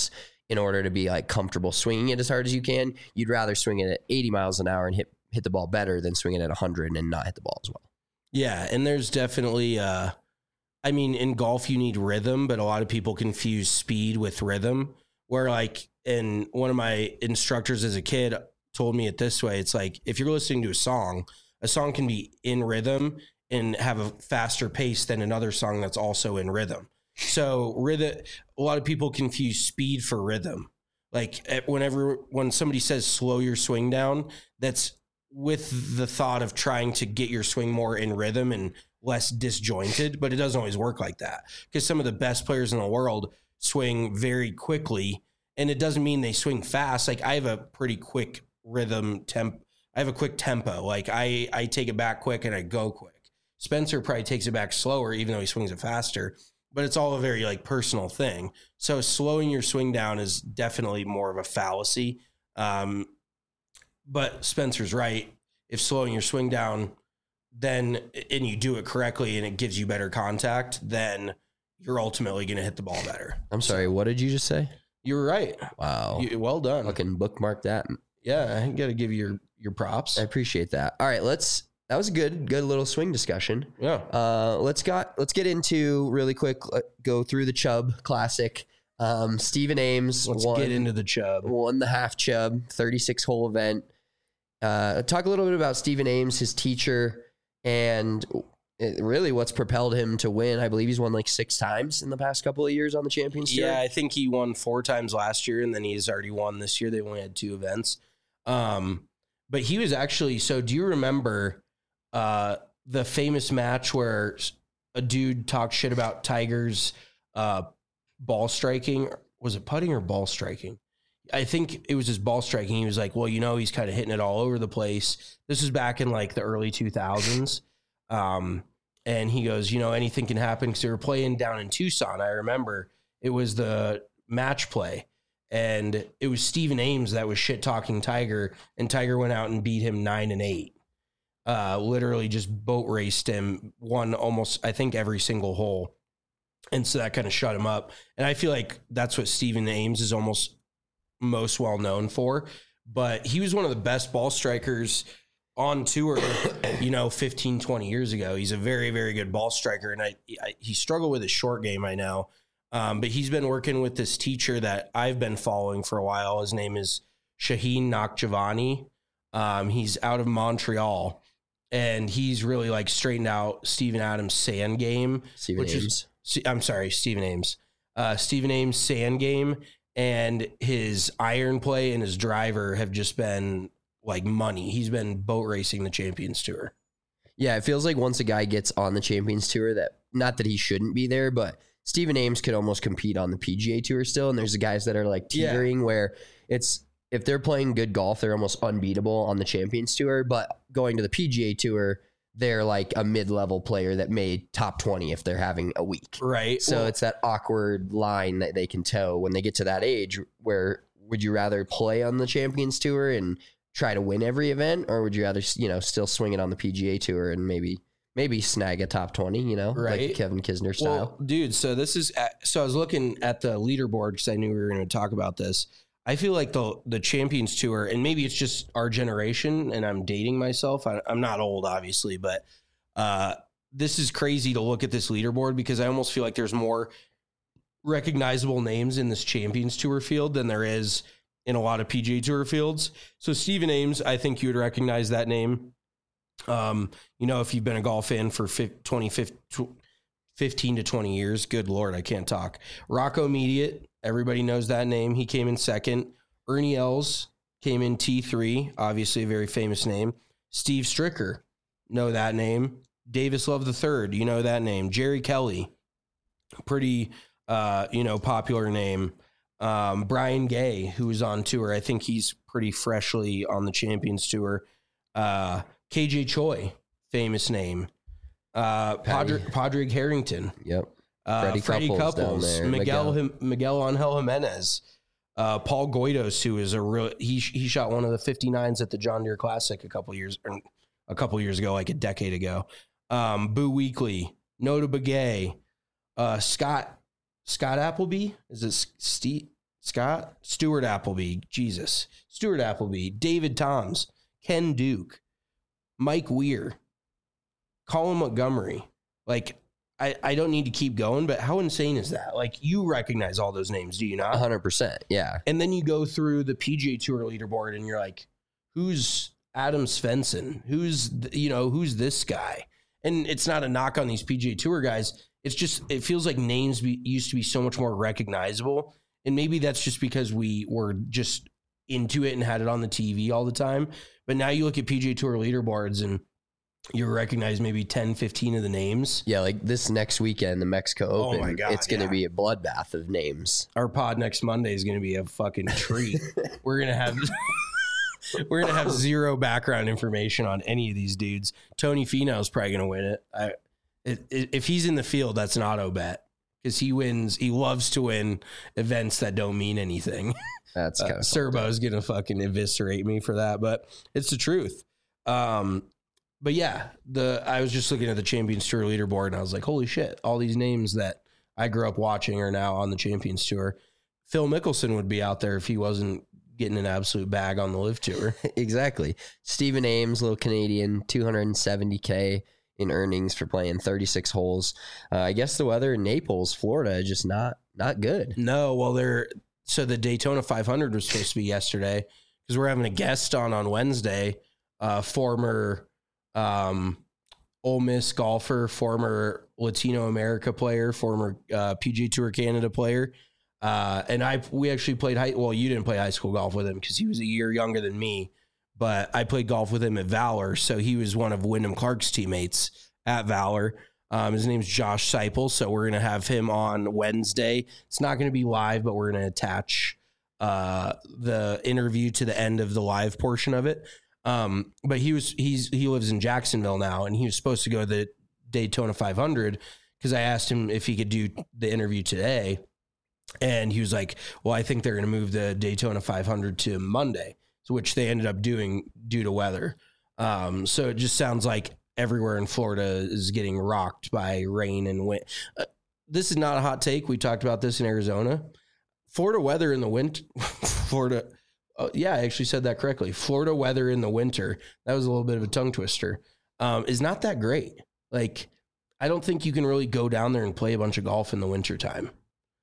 D: in order to be like comfortable swinging it as hard as you can. You'd rather swing it at eighty miles an hour and hit hit the ball better than swing it at one hundred and not hit the ball as well.
E: Yeah, and there's definitely, uh, I mean, in golf you need rhythm, but a lot of people confuse speed with rhythm. Where like, and one of my instructors as a kid told me it this way: it's like if you're listening to a song, a song can be in rhythm and have a faster pace than another song that's also in rhythm. So rhythm, a lot of people confuse speed for rhythm. Like whenever, when somebody says slow your swing down, that's with the thought of trying to get your swing more in rhythm and less disjointed, but it doesn't always work like that because some of the best players in the world swing very quickly, and it doesn't mean they swing fast. Like I have a pretty quick rhythm temp. I have a quick tempo. Like I, I take it back quick and I go quick. Spencer probably takes it back slower, even though he swings it faster. But it's all a very like personal thing. So slowing your swing down is definitely more of a fallacy. Um, but Spencer's right. If slowing your swing down, then and you do it correctly and it gives you better contact, then you're ultimately going to hit the ball better.
D: I'm sorry. What did you just say?
E: You were right.
D: Wow.
E: You, well done.
D: Fucking bookmark that.
E: Yeah, I got to give you your, your props.
D: I appreciate that. All right, let's. That was a good, good little swing discussion.
E: Yeah.
D: Uh, let's got let's get into really quick. Go through the Chubb Classic. Um, Stephen Ames.
E: Let's
D: won,
E: get into the Chubb.
D: Won the half Chubb, thirty-six hole event. Uh, talk a little bit about Stephen Ames, his teacher, and it, really what's propelled him to win. I believe he's won like six times in the past couple of years on the Champions Tour.
E: Yeah, I think he won four times last year, and then he's already won this year. They only had two events. Um, but he was actually. So, do you remember? Uh, the famous match where a dude talked shit about Tiger's uh, ball striking? Was it putting or ball striking? I think it was his ball striking. He was like, well, you know, he's kind of hitting it all over the place. This was back in like the early two thousands. Um, and he goes, you know, anything can happen because they were playing down in Tucson. I remember it was the match play. And it was Stephen Ames that was shit talking Tiger, and Tiger went out and beat him nine and eight. Uh, literally just boat raced him, won almost, I think, every single hole. And so that kind of shut him up. And I feel like that's what Stephen Ames is almost most well known for. But he was one of the best ball strikers on tour, you know, fifteen, twenty years ago. He's a very, very good ball striker. And I, I he struggled with his short game, I know. Um, but he's been working with this teacher that I've been following for a while. His name is Shaheen Nakhjavani. Um, he's out of Montreal. And he's really like straightened out Steven Adams' sand game.
D: Stephen
E: which
D: Ames.
E: Is, I'm sorry, Stephen Ames. Uh, Stephen Ames' sand game and his iron play and his driver have just been like money. He's been boat racing the Champions Tour.
D: Yeah, it feels like once a guy gets on the Champions Tour, that not that he shouldn't be there, but Stephen Ames could almost compete on the P G A Tour still. And there's the guys that are like teetering yeah. where it's, if they're playing good golf, they're almost unbeatable on the Champions Tour. But going to the P G A Tour, they're like a mid-level player that made top twenty if they're having a week.
E: Right.
D: So
E: well,
D: it's that awkward line that they can toe when they get to that age where would you rather play on the Champions Tour and try to win every event, or would you rather, you know, still swing it on the P G A Tour and maybe maybe snag a top twenty, you know,
E: right.
D: like Kevin Kisner style?
E: Well, dude, so this is at, so I was looking at the leaderboard because I knew we were going to talk about this. I feel like the the Champions Tour, and maybe it's just our generation, and I'm dating myself. I, I'm not old, obviously, but uh, this is crazy to look at this leaderboard because I almost feel like there's more recognizable names in this Champions Tour field than there is in a lot of P G A Tour fields. So Stephen Ames, I think you would recognize that name. Um, you know, if you've been a golf fan for twenty, fifteen to twenty years, good Lord, I can't talk. Rocco Mediate. Everybody knows that name. He came in second. Ernie Els came in T three, obviously a very famous name. Steve Stricker, know that name. Davis Love the third, you know that name. Jerry Kelly, pretty, uh, you know, popular name. Um, Brian Gay, who was on tour. I think he's pretty freshly on the Champions Tour. Uh, K J Choi, famous name. Uh, Padraig, Padraig Harrington.
D: Yep.
E: Uh,
D: Freddie,
E: Freddie
D: Couples,
E: Couples, Miguel Miguel, Miguel Angel Jimenez, uh, Paul Goidos, who is a real he he shot one of the fifty-nines at the John Deere Classic a couple years or a couple years ago, like a decade ago. Um, Boo Weekley, Nota Begay, uh, Scott Scott Appleby, is it Steve Scott, Stuart Appleby, Jesus, Stuart Appleby, David Toms, Ken Duke, Mike Weir, Colin Montgomery. Like, I, I don't need to keep going, but how insane is that? Like, you recognize all those names, do you not?
D: one hundred percent, yeah.
E: And then you go through the P G A Tour leaderboard and you're like, who's Adam Svensson? Who's, you know, who's this guy? And it's not a knock on these P G A Tour guys. It's just, it feels like names be, used to be so much more recognizable. And maybe that's just because we were just into it and had it on the T V all the time. But now you look at P G A Tour leaderboards and you recognize maybe ten, fifteen of the names.
D: Yeah, like this next weekend, the Mexico Open,
E: oh my God,
D: it's going to
E: yeah.
D: be a bloodbath of names.
E: Our pod next Monday is going to be a fucking treat. We're going to have we're going to have zero background information on any of these dudes. Tony Finau's probably going to win it. I, it, it. If he's in the field, that's an auto bet because he wins. He loves to win events that don't mean anything.
D: That's kind
E: uh,
D: of
E: Serbo's going to fucking eviscerate me for that, but it's the truth. Um, But yeah, the I was just looking at the Champions Tour leaderboard and I was like, holy shit, all these names that I grew up watching are now on the Champions Tour. Phil Mickelson would be out there if he wasn't getting an absolute bag on the Live Tour.
D: Exactly. Stephen Ames, little Canadian, two hundred seventy K in earnings for playing thirty-six holes. Uh, I guess the weather in Naples, Florida, is just not not good.
E: No, well, they're so the Daytona five hundred was supposed to be yesterday because we're having a guest on on Wednesday, uh, former um, Ole Miss golfer, former Latino America player, former uh, P G A Tour Canada player. Uh, and I, we actually played high. Well, you didn't play high school golf with him because he was a year younger than me, but I played golf with him at Valor. So he was one of Wyndham Clark's teammates at Valor. Um, his name's Josh Seipel. So we're going to have him on Wednesday. It's not going to be live, but we're going to attach uh, the interview to the end of the live portion of it. Um, but he was, he's, he lives in Jacksonville now, and he was supposed to go to the Daytona five hundred because I asked him if he could do the interview today. And he was like, well, I think they're going to move the Daytona five hundred to Monday, so which they ended up doing due to weather. Um, so it just sounds like everywhere in Florida is getting rocked by rain and wind. Uh, this is not a hot take. We talked about this in Arizona. Florida weather in the winter, Florida. Uh, yeah, I actually said that correctly. Florida weather in the winter. That was a little bit of a tongue twister. Um, is not that great. Like, I don't think you can really go down there and play a bunch of golf in the wintertime.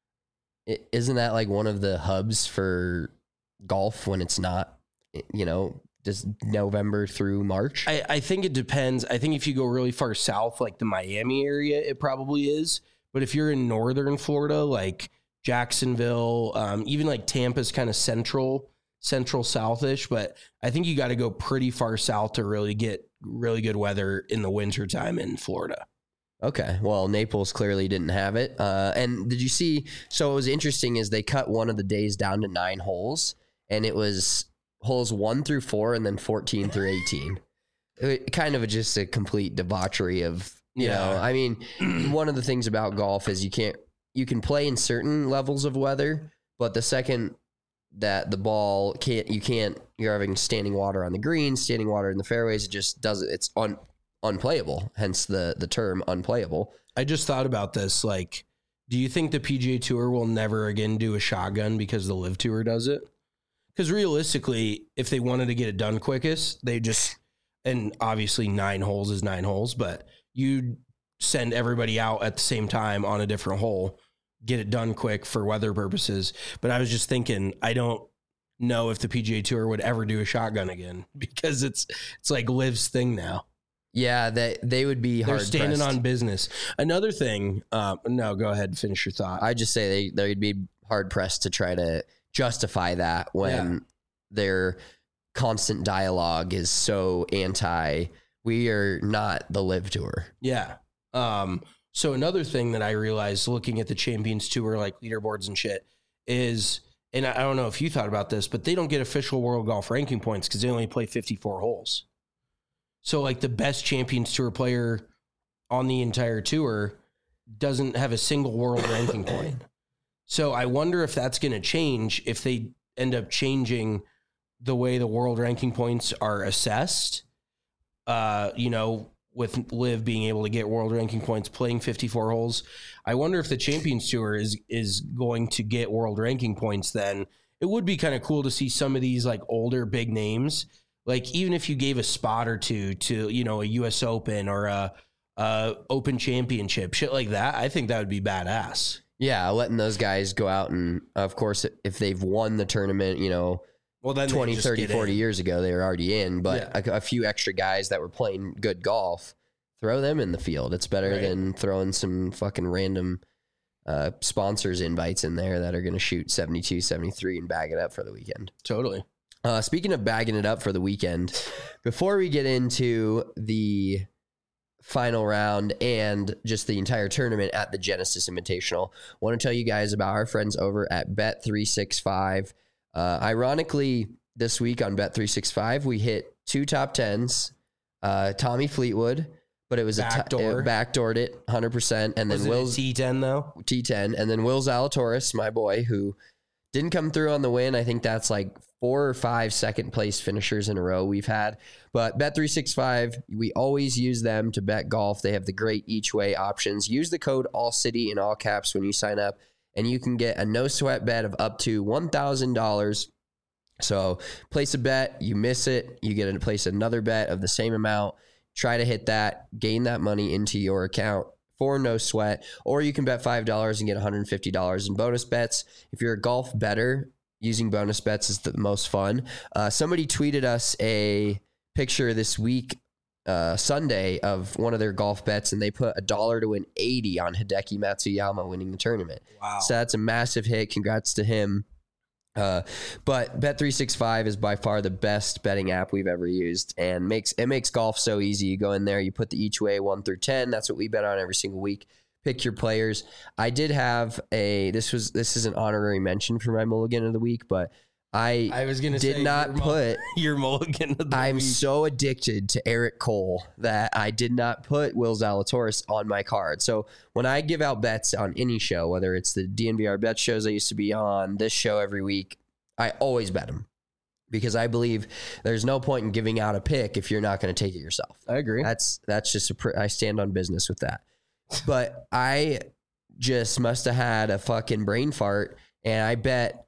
D: Isn't that like one of the hubs for golf when it's not, you know, just November through March?
E: I, I think it depends. I think if you go really far south, like the Miami area, it probably is. But if you're in northern Florida, like Jacksonville, um, even like Tampa's kind of central, central southish. But I think you got to go pretty far south to really get really good weather in the wintertime in Florida.
D: Okay. Well, Naples clearly didn't have it. Uh, and did you see? So what was interesting is they cut one of the days down to nine holes, and it was holes one through four and then fourteen through eighteen. It, kind of a, just a complete debauchery of, you
E: Yeah.
D: know, I mean, one of the things about golf is you can't, you can play in certain levels of weather, but the second that the ball can't, you can't, you're having standing water on the green, standing water in the fairways, it just doesn't, it's on. unplayable, hence the the term unplayable.
E: I just thought about this. Like, do you think the P G A Tour will never again do a shotgun because the Live Tour does it? Because realistically, if they wanted to get it done quickest, they just, and obviously nine holes is nine holes, but you send everybody out at the same time on a different hole, get it done quick for weather purposes. But I was just thinking, I don't know if the P G A Tour would ever do a shotgun again because it's it's like Liv's thing now.
D: Yeah, that they would be hard.
E: They're standing
D: pressed.
E: on business. Another thing, um, no, go ahead and finish your thought.
D: I just say they they'd be hard pressed to try to justify that when
E: Yeah.
D: their constant dialogue is so anti. We are not the Live Tour.
E: Yeah. Um, so another thing that I realized looking at the Champions Tour, like leaderboards and shit, is, and I don't know if you thought about this, but they don't get official world golf ranking points because they only play fifty-four holes. So like the best Champions Tour player on the entire tour doesn't have a single world ranking point. So I wonder if that's going to change if they end up changing the way the world ranking points are assessed. Uh, you know, with Liv being able to get world ranking points playing fifty-four holes. I wonder if the Champions Tour is is going to get world ranking points then. It would be kind of cool to see some of these like older big names, like even if you gave a spot or two to, you know, a U S Open or a, a Open Championship, shit like that. I think that would be badass.
D: Yeah, letting those guys go out and, of course, if they've won the tournament, you know,
E: well, then
D: twenty, thirty, forty
E: in.
D: years ago, they were already in. But yeah. a, a few extra guys that were playing good golf, throw them in the field. It's better right. than throwing some fucking random uh, sponsors invites in there that are going to shoot seventy-two, seventy-three and bag it up for the weekend.
E: Totally.
D: Uh, speaking of bagging it up for the weekend, before we get into the final round and just the entire tournament at the Genesis Invitational, I want to tell you guys about our friends over at Bet three sixty-five. Uh, ironically, this week on Bet three sixty-five, we hit two top tens. Uh, Tommy Fleetwood, but it was
E: backdoor.
D: a t- it backdoored it one hundred percent. And then
E: was
D: Will's
E: T ten though.
D: T ten, and then Will Zalatoris, my boy, who didn't come through on the win. I think that's like four or five second place finishers in a row we've had. But Bet three sixty-five, we always use them to bet golf. They have the great each way options. Use the code ALLCITY in all caps when you sign up, and you can get a no sweat bet of up to one thousand dollars. So place a bet, you miss it, you get to place another bet of the same amount. Try to hit that, gain that money into your account for no sweat, or you can bet five dollars and get one hundred fifty dollars in bonus bets. If you're a golf bettor, using bonus bets is the most fun. Uh, somebody tweeted us a picture this week, uh, Sunday, of one of their golf bets, and they put a dollar to win eighty on Hideki Matsuyama winning the tournament.
E: Wow.
D: So that's a massive hit. Congrats to him. Uh, but Bet three sixty-five is by far the best betting app we've ever used, and makes it makes golf so easy. You go in there, you put the each way one through ten. That's what we bet on every single week. Pick your players. I did have a this was this is an honorary mention for my mulligan of the week, but I
E: I was gonna
D: did
E: say
D: not
E: your
D: put
E: your mulligan of the
D: I'm
E: week.
D: so addicted to Eric Cole that I did not put Will Zalatoris on my card. So when I give out bets on any show, whether it's the D N V R bet shows I used to be on, this show every week, I always bet him because I believe there's no point in giving out a pick if you're not going to take it yourself.
E: I agree.
D: That's that's just a pr- I stand on business with that. But I just must have had a fucking brain fart, and I bet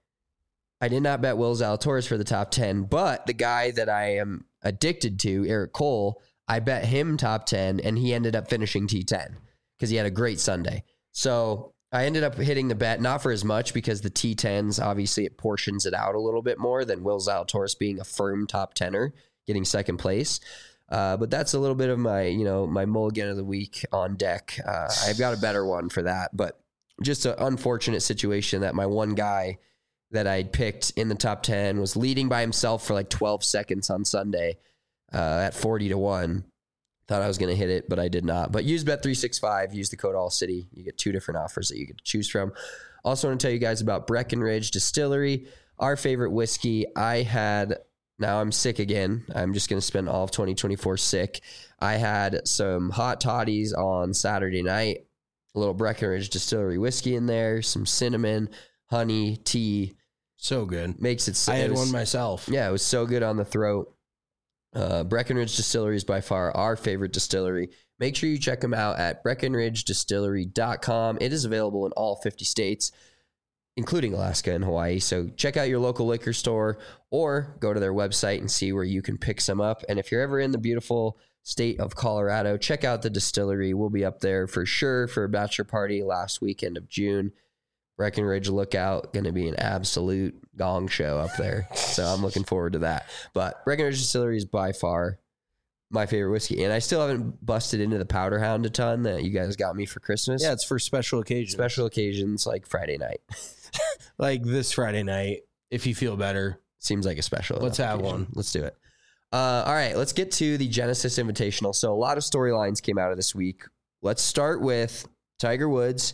D: I did not bet Will Zalatoris for the top ten, but the guy that I am addicted to, Eric Cole, I bet him top ten, and he ended up finishing T ten because he had a great Sunday. So I ended up hitting the bet, not for as much because the T tens, obviously it portions it out a little bit more than Will Zalatoris being a firm top tenner, getting second place. Uh, but that's a little bit of my, you know, my mulligan of the week on deck. Uh, I've got a better one for that, but just an unfortunate situation that my one guy that I'd picked in the top ten was leading by himself for like twelve seconds on Sunday uh, at forty to one. Thought I was going to hit it, but I did not. But use Bet three sixty-five, use the code ALLCITY. You get two different offers that you get to choose from. Also want to tell you guys about Breckenridge Distillery, our favorite whiskey. I had... Now I'm sick again. I'm just going to spend all of twenty twenty-four sick. I had some hot toddies on Saturday night, a little Breckenridge Distillery whiskey in there, some cinnamon, honey, tea.
E: So good.
D: Makes it so.
E: I had
D: it was,
E: one myself.
D: Yeah, it was so good on the throat. Uh, Breckenridge Distillery is by far our favorite distillery. Make sure you check them out at breckenridge distillery dot com. It is available in all fifty states, including Alaska and Hawaii. So check out your local liquor store or go to their website and see where you can pick some up. And if you're ever in the beautiful state of Colorado, check out the distillery. We'll be up there for sure for a bachelor party last weekend of June. Breckenridge Lookout, going to be an absolute gong show up there. So I'm looking forward to that. But Breckenridge Distillery is by far my favorite whiskey. And I still haven't busted into the Powder Hound a ton that you guys got me for Christmas.
E: Yeah, it's for special occasions.
D: Special occasions like Friday night.
E: Like this Friday night, if you feel better.
D: Seems like a special.
E: Let's have
D: occasion.
E: one.
D: Let's do it. Uh, all right, let's get to the Genesis Invitational. So a lot of storylines came out of this week. Let's start with Tiger Woods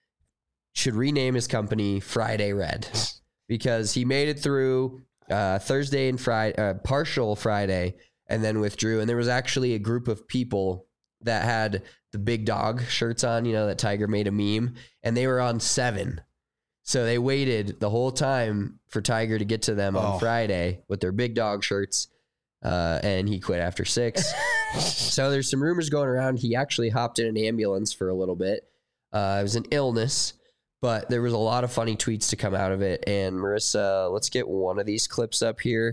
D: should rename his company Friday Red because he made it through uh, Thursday and Friday, uh, partial Friday, and then withdrew. And there was actually a group of people that had the big dog shirts on, you know, that Tiger made a meme, and they were on seven. So they waited the whole time for Tiger to get to them on
E: oh.
D: Friday with their big dog shirts, uh, and he quit after six. So there's some rumors going around. He actually hopped in an ambulance for a little bit. Uh, it was an illness, but there was a lot of funny tweets to come out of it. And Marissa, let's get one of these clips up here.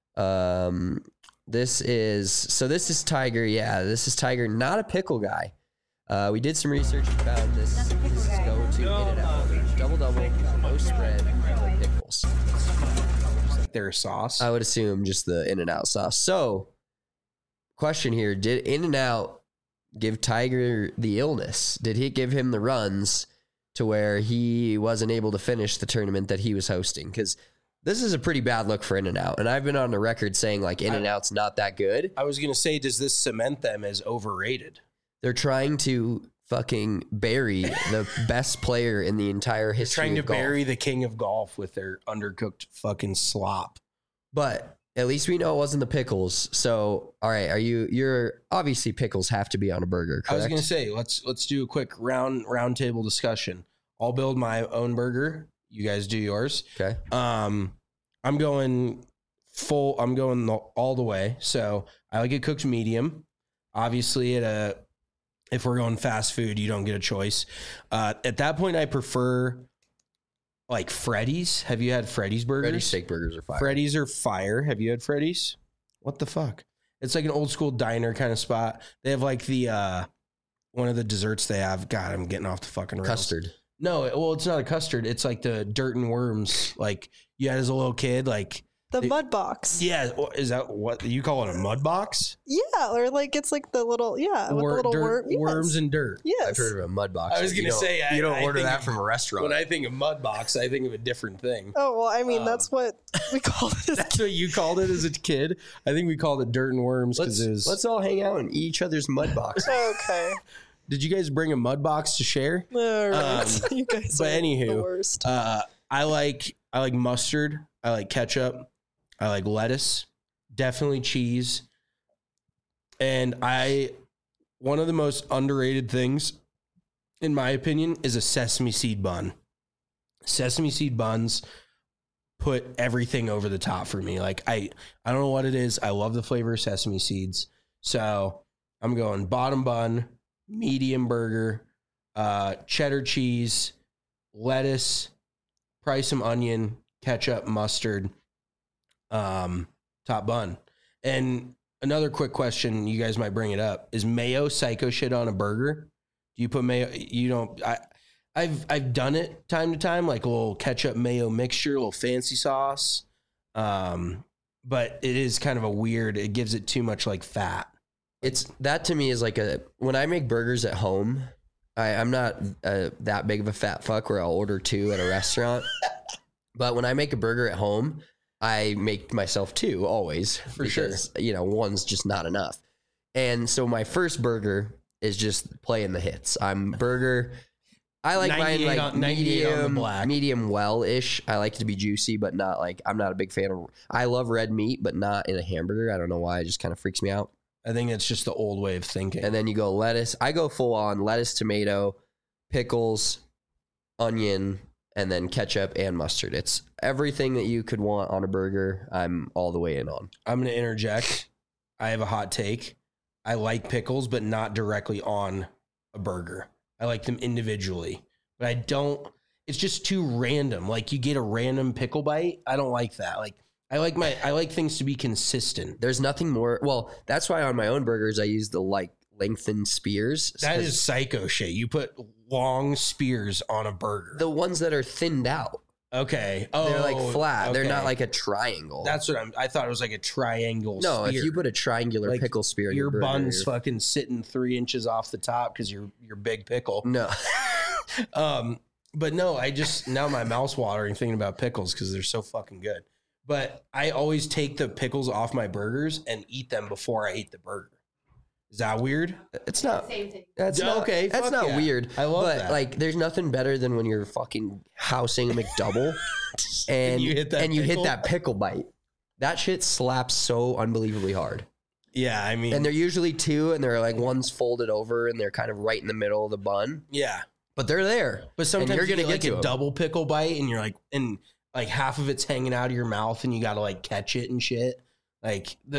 D: Um, this is, so this is Tiger. Yeah, this is Tiger, not a pickle guy. Uh, we did some research and found this. This is go to In-N-Out. Double double, no spread, no pickles.
E: Just like their sauce.
D: I would assume just the In-N-Out sauce. So, question here: did In-N-Out give Tiger the illness? Did he give him the runs to where he wasn't able to finish the tournament that he was hosting? Because this is a pretty bad look for In-N-Out, and I've been on the record saying like In-N-Out's not that good.
E: I was gonna say, does this cement them as overrated?
D: They're trying to fucking bury the best player in the entire history
E: Trying to
D: of golf.
E: bury the king of golf with their undercooked fucking slop.
D: But at least we know it wasn't the pickles. So, all right, are you? You're obviously pickles have to be on a burger. Correct?
E: I was gonna say let's let's do a quick round round table discussion. I'll build my own burger. You guys do yours.
D: Okay.
E: Um, I'm going full. I'm going the, all the way. So I like it cooked medium. Obviously, at a if we're going fast food, you don't get a choice. Uh, at that point, I prefer like Freddy's. Have you had Freddy's burgers?
D: Freddy's steak burgers are fire.
E: Freddy's are fire. Have you had Freddy's? What the fuck? It's like an old school diner kind of spot. They have like the uh, one of the desserts they have. God, I'm getting off the fucking rails.
D: Custard.
E: No, well, it's not a custard. It's like the dirt and worms. Like you had as a little kid. Like
F: The
E: they,
F: mud box.
E: Yeah, is that what you call it? A mud box?
F: Yeah, or like it's like the little yeah, with
E: Wor-
F: the little
E: dirt,
F: worm. Yes.
E: Worms and dirt.
F: Yes.
D: I've heard of a mud box.
E: I was
D: You
E: gonna
D: don't-
E: say, I-
D: you don't
E: I
D: order
E: think
D: that
E: of-
D: from a restaurant.
E: When I think of mud box, I think of a different thing.
F: Oh well, I mean
E: Um,
F: that's what we call it. As
E: That's what you called it as a kid. I think we called it dirt and worms
D: let's,
E: because it was.
D: let's all hang out and eat each other's mud box.
F: Okay.
E: Did you guys bring a mud box to share?
F: All right.
E: Um,
F: you guys
E: but
F: are
E: anywho,
F: the worst.
E: Uh, I like I like mustard. I like ketchup. I like lettuce. Definitely cheese. And I, one of the most underrated things, in my opinion, is a sesame seed bun. Sesame seed buns put everything over the top for me. Like I, I don't know what it is. I love the flavor of sesame seeds. So I'm going bottom bun, medium burger, uh, cheddar cheese, lettuce, probably some onion, ketchup, mustard, um, top bun. And another quick question, you guys might bring it up: is mayo psycho shit on a burger? Do you put mayo? You don't. I, I've I've done it time to time, like a little ketchup mayo mixture, a little fancy sauce. Um, but it is kind of a weird. It gives it too much like fat.
D: It's that to me is like a when I make burgers at home. I, I'm not uh, that big of a fat fuck where I'll order two at a restaurant. But when I make a burger at home, I make myself two always
E: For
D: because, you know, one's just not enough. And so my first burger is just playing the hits. I'm burger. I like mine
E: ninety-eight
D: like
E: on- ninety-eight on the
D: medium,
E: black.
D: medium well-ish. I like it to be juicy, but not like, I'm not a big fan of, I love red meat, but not in a hamburger. I don't know why. It just kind of freaks me out.
E: I think it's just the old way of thinking.
D: And then you go lettuce. I go full on lettuce, tomato, pickles, onion, and then ketchup and mustard. It's everything that you could want on a burger. I'm all the way in on.
E: I'm going to interject. I have a hot take. I like pickles, but not directly on a burger. I like them individually, but I don't. It's just too random. Like you get a random pickle bite. I don't like that. Like I like my. I like things to be consistent.
D: There's nothing more. Well, that's why on my own burgers I use the like lengthened spears.
E: That
D: 'cause
E: is psycho shit. You put long spears on a burger.
D: the ones that are thinned out.
E: okay. Oh,
D: They're like flat. They're not
E: okay.
D: like a triangle.
E: That's what I'm. I thought it was like a triangle.
D: no.
E: spear.
D: If you put a triangular
E: Like,
D: pickle spear in
E: your
D: your, burger,
E: bun's
D: you're-
E: fucking sitting three inches off the top because you're you're big pickle.
D: no.
E: Um, but no, I just now my mouth's watering thinking about pickles because they're so fucking good. But I always take the pickles off my burgers and eat them before I eat the burger. Is that weird?
D: It's not.
G: Same thing.
D: That's
E: Yeah,
D: not
E: okay,
D: That's
E: fuck
D: not
E: yeah.
D: weird.
E: I love
D: but,
E: that.
D: like, there's nothing better than when you're fucking housing a McDouble and
E: you hit that
D: and you
E: pickle?
D: hit that pickle bite. That shit slaps so unbelievably hard.
E: Yeah, I mean,
D: And they're usually two, and they're like one's folded over, and they're kind of right in the middle of the bun.
E: yeah.
D: But they're there.
E: But sometimes
D: and you're
E: you
D: gonna
E: get like
D: get to
E: a
D: 'em.
E: double pickle bite, and you're like, and like half of it's hanging out of your mouth, and you got to like catch it and shit. Like the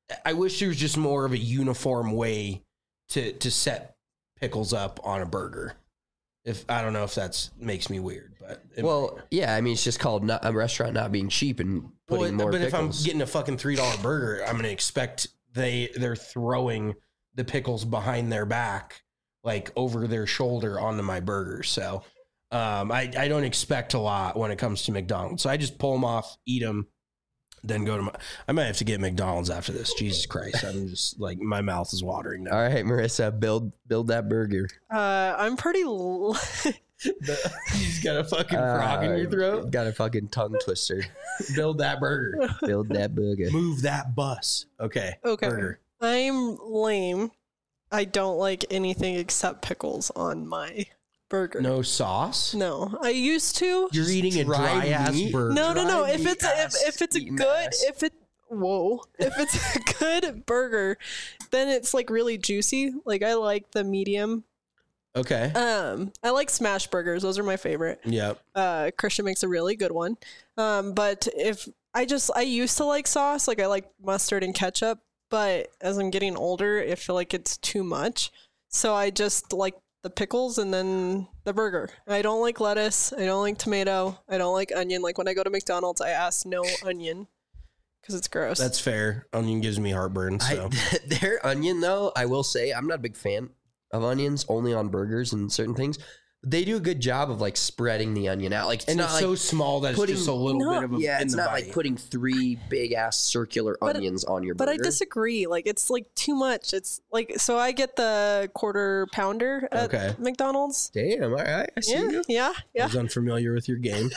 E: I wish there was just more of a uniform way to to set pickles up on a burger. If I don't know if that's makes me weird, but it,
D: Well, yeah, I mean, it's just called not, a restaurant not being cheap and putting
E: well,
D: more
E: but
D: pickles.
E: if I'm getting a fucking three dollar burger, I'm gonna expect they they're throwing the pickles behind their back, like over their shoulder onto my burger. So um, I I don't expect a lot when it comes to McDonald's. So I just pull them off, eat them, then go to my. I might have to get McDonald's after this. Jesus Christ, I'm just like my mouth is watering now.
D: All right, Marissa, build build that burger.
F: Uh, I'm pretty. L-
E: You just got a fucking frog in your
D: Uh,
E: throat.
D: Got a fucking tongue twister.
E: Build that burger.
D: Build that burger.
E: Move that bus. Okay.
F: Okay.
E: Burger.
F: I'm lame. I don't like anything except pickles on my burger.
E: No sauce.
F: No, I used to.
E: You're eating a
D: dry
E: dry ass
D: meat?
E: burger.
F: No, no, no.
D: Dry
F: If
D: meat
F: it's if,
D: ass
F: if it's a
D: eating
F: good
D: ass.
F: if it whoa if it's a good burger, then it's like really juicy. Like I like the medium.
E: Okay.
F: Um, I like smash burgers. Those are my favorite.
E: Yep.
F: Uh, Christian makes a really good one. Um, but if I just I used to like sauce, like I like mustard and ketchup. But as I'm getting older, I feel like it's too much. So I just like the pickles and then the burger. I don't like lettuce. I don't like tomato. I don't like onion. Like when I go to McDonald's, I ask no onion because it's gross.
E: That's fair. Onion gives me heartburn. So
D: I, their onion, though, I will say, I'm not a big fan of onions, only on burgers and certain things. They do a good job of like spreading the onion out. Like it's
E: and
D: not
E: it's
D: like
E: so small that it's
D: putting-
E: just a little
F: No,
E: bit of a
D: yeah,
E: in
D: it's
E: the
D: not
E: bite.
D: like putting three big ass circular
F: But-
D: onions on your
F: but
D: burger.
F: I disagree. Like it's like too much. It's like so I get the quarter pounder at
E: Okay.
F: McDonald's.
D: Damn, all right, I see
F: Yeah,
D: you.
F: yeah,
E: I
F: yeah.
E: was unfamiliar with your game.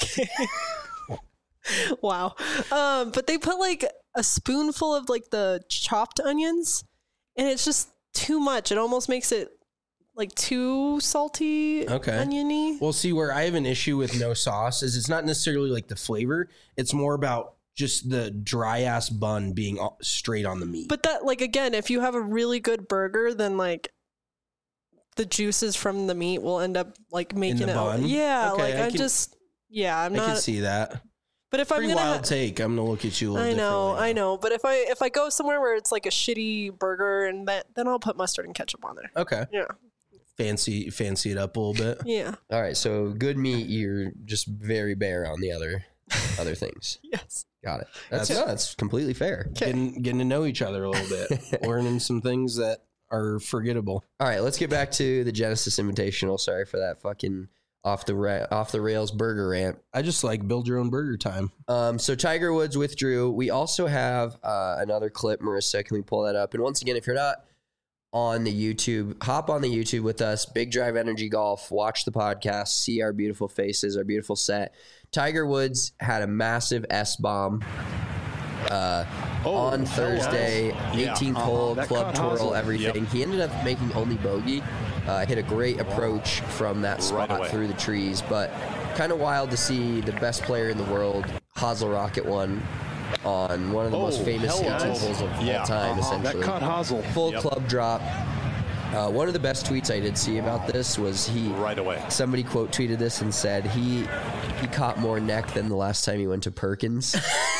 F: Wow. Um, but they put like a spoonful of like the chopped onions, and it's just too much. It almost makes it like too salty,
E: Okay.
F: oniony.
E: Well, see, where I have an issue with no sauce is it's not necessarily like the flavor. It's more about just the dry ass bun being all- straight on the meat.
F: But that, like, again, if you have a really good burger, then like the juices from the meat will end up like making
E: the
F: it.
E: bun?
F: Yeah,
E: Okay,
F: like
E: I
F: I,
E: can-
F: just, yeah, I'm
E: I can
F: not.
E: see that.
F: But if I'm
E: Pretty
F: gonna,
E: wild
F: ha-
E: take. I'm gonna look at you a little
F: I know,
E: differently.
F: I know. But if I if I go somewhere where it's like a shitty burger, and that, then I'll put mustard and ketchup on there.
E: Okay.
F: Yeah,
E: Fancy, fancy it up a little bit.
F: yeah,
D: All right, so good meat, you're just very bare on the other other things.
F: yes.
D: Got it. That's
E: That's-
D: no, that's completely fair.
F: Okay.
E: Getting, getting to know each other a little bit, learning some things that are forgettable.
D: All right, let's get back to the Genesis Invitational. Sorry for that fucking off the ra- off the rails burger rant.
E: I just like build your own burger time.
D: Um, so Tiger Woods withdrew. We also have uh, another clip. Marissa, can we pull that up? And once again, if you're not on the YouTube, hop on the YouTube with us. Big Drive Energy Golf. Watch the podcast. See our beautiful faces, our beautiful set. Tiger Woods had a massive S bomb uh, on Thursday.
G: Yeah,
D: eighteenth
G: uh-huh.
D: hole,
G: That
D: club
G: cut
D: twirl,
G: hustle.
D: everything.
G: Yep.
D: He ended up making only bogey. Uh, hit a great approach from that spot
G: away.
D: through the trees, but kind of wild to see the best player in the world, Hazel Rocket, one on one of the most
G: Oh,
D: famous
G: hell
D: eighteen
G: no.
D: holes of
G: Yeah,
D: all time,
G: uh-huh.
D: essentially.
G: That cut Hazel.
D: Full
G: Yep.
D: club drop. Uh, one of the best tweets I did see about this was he
G: Right away.
D: somebody quote tweeted this and said he he caught more neck than the last time he went to Perkins,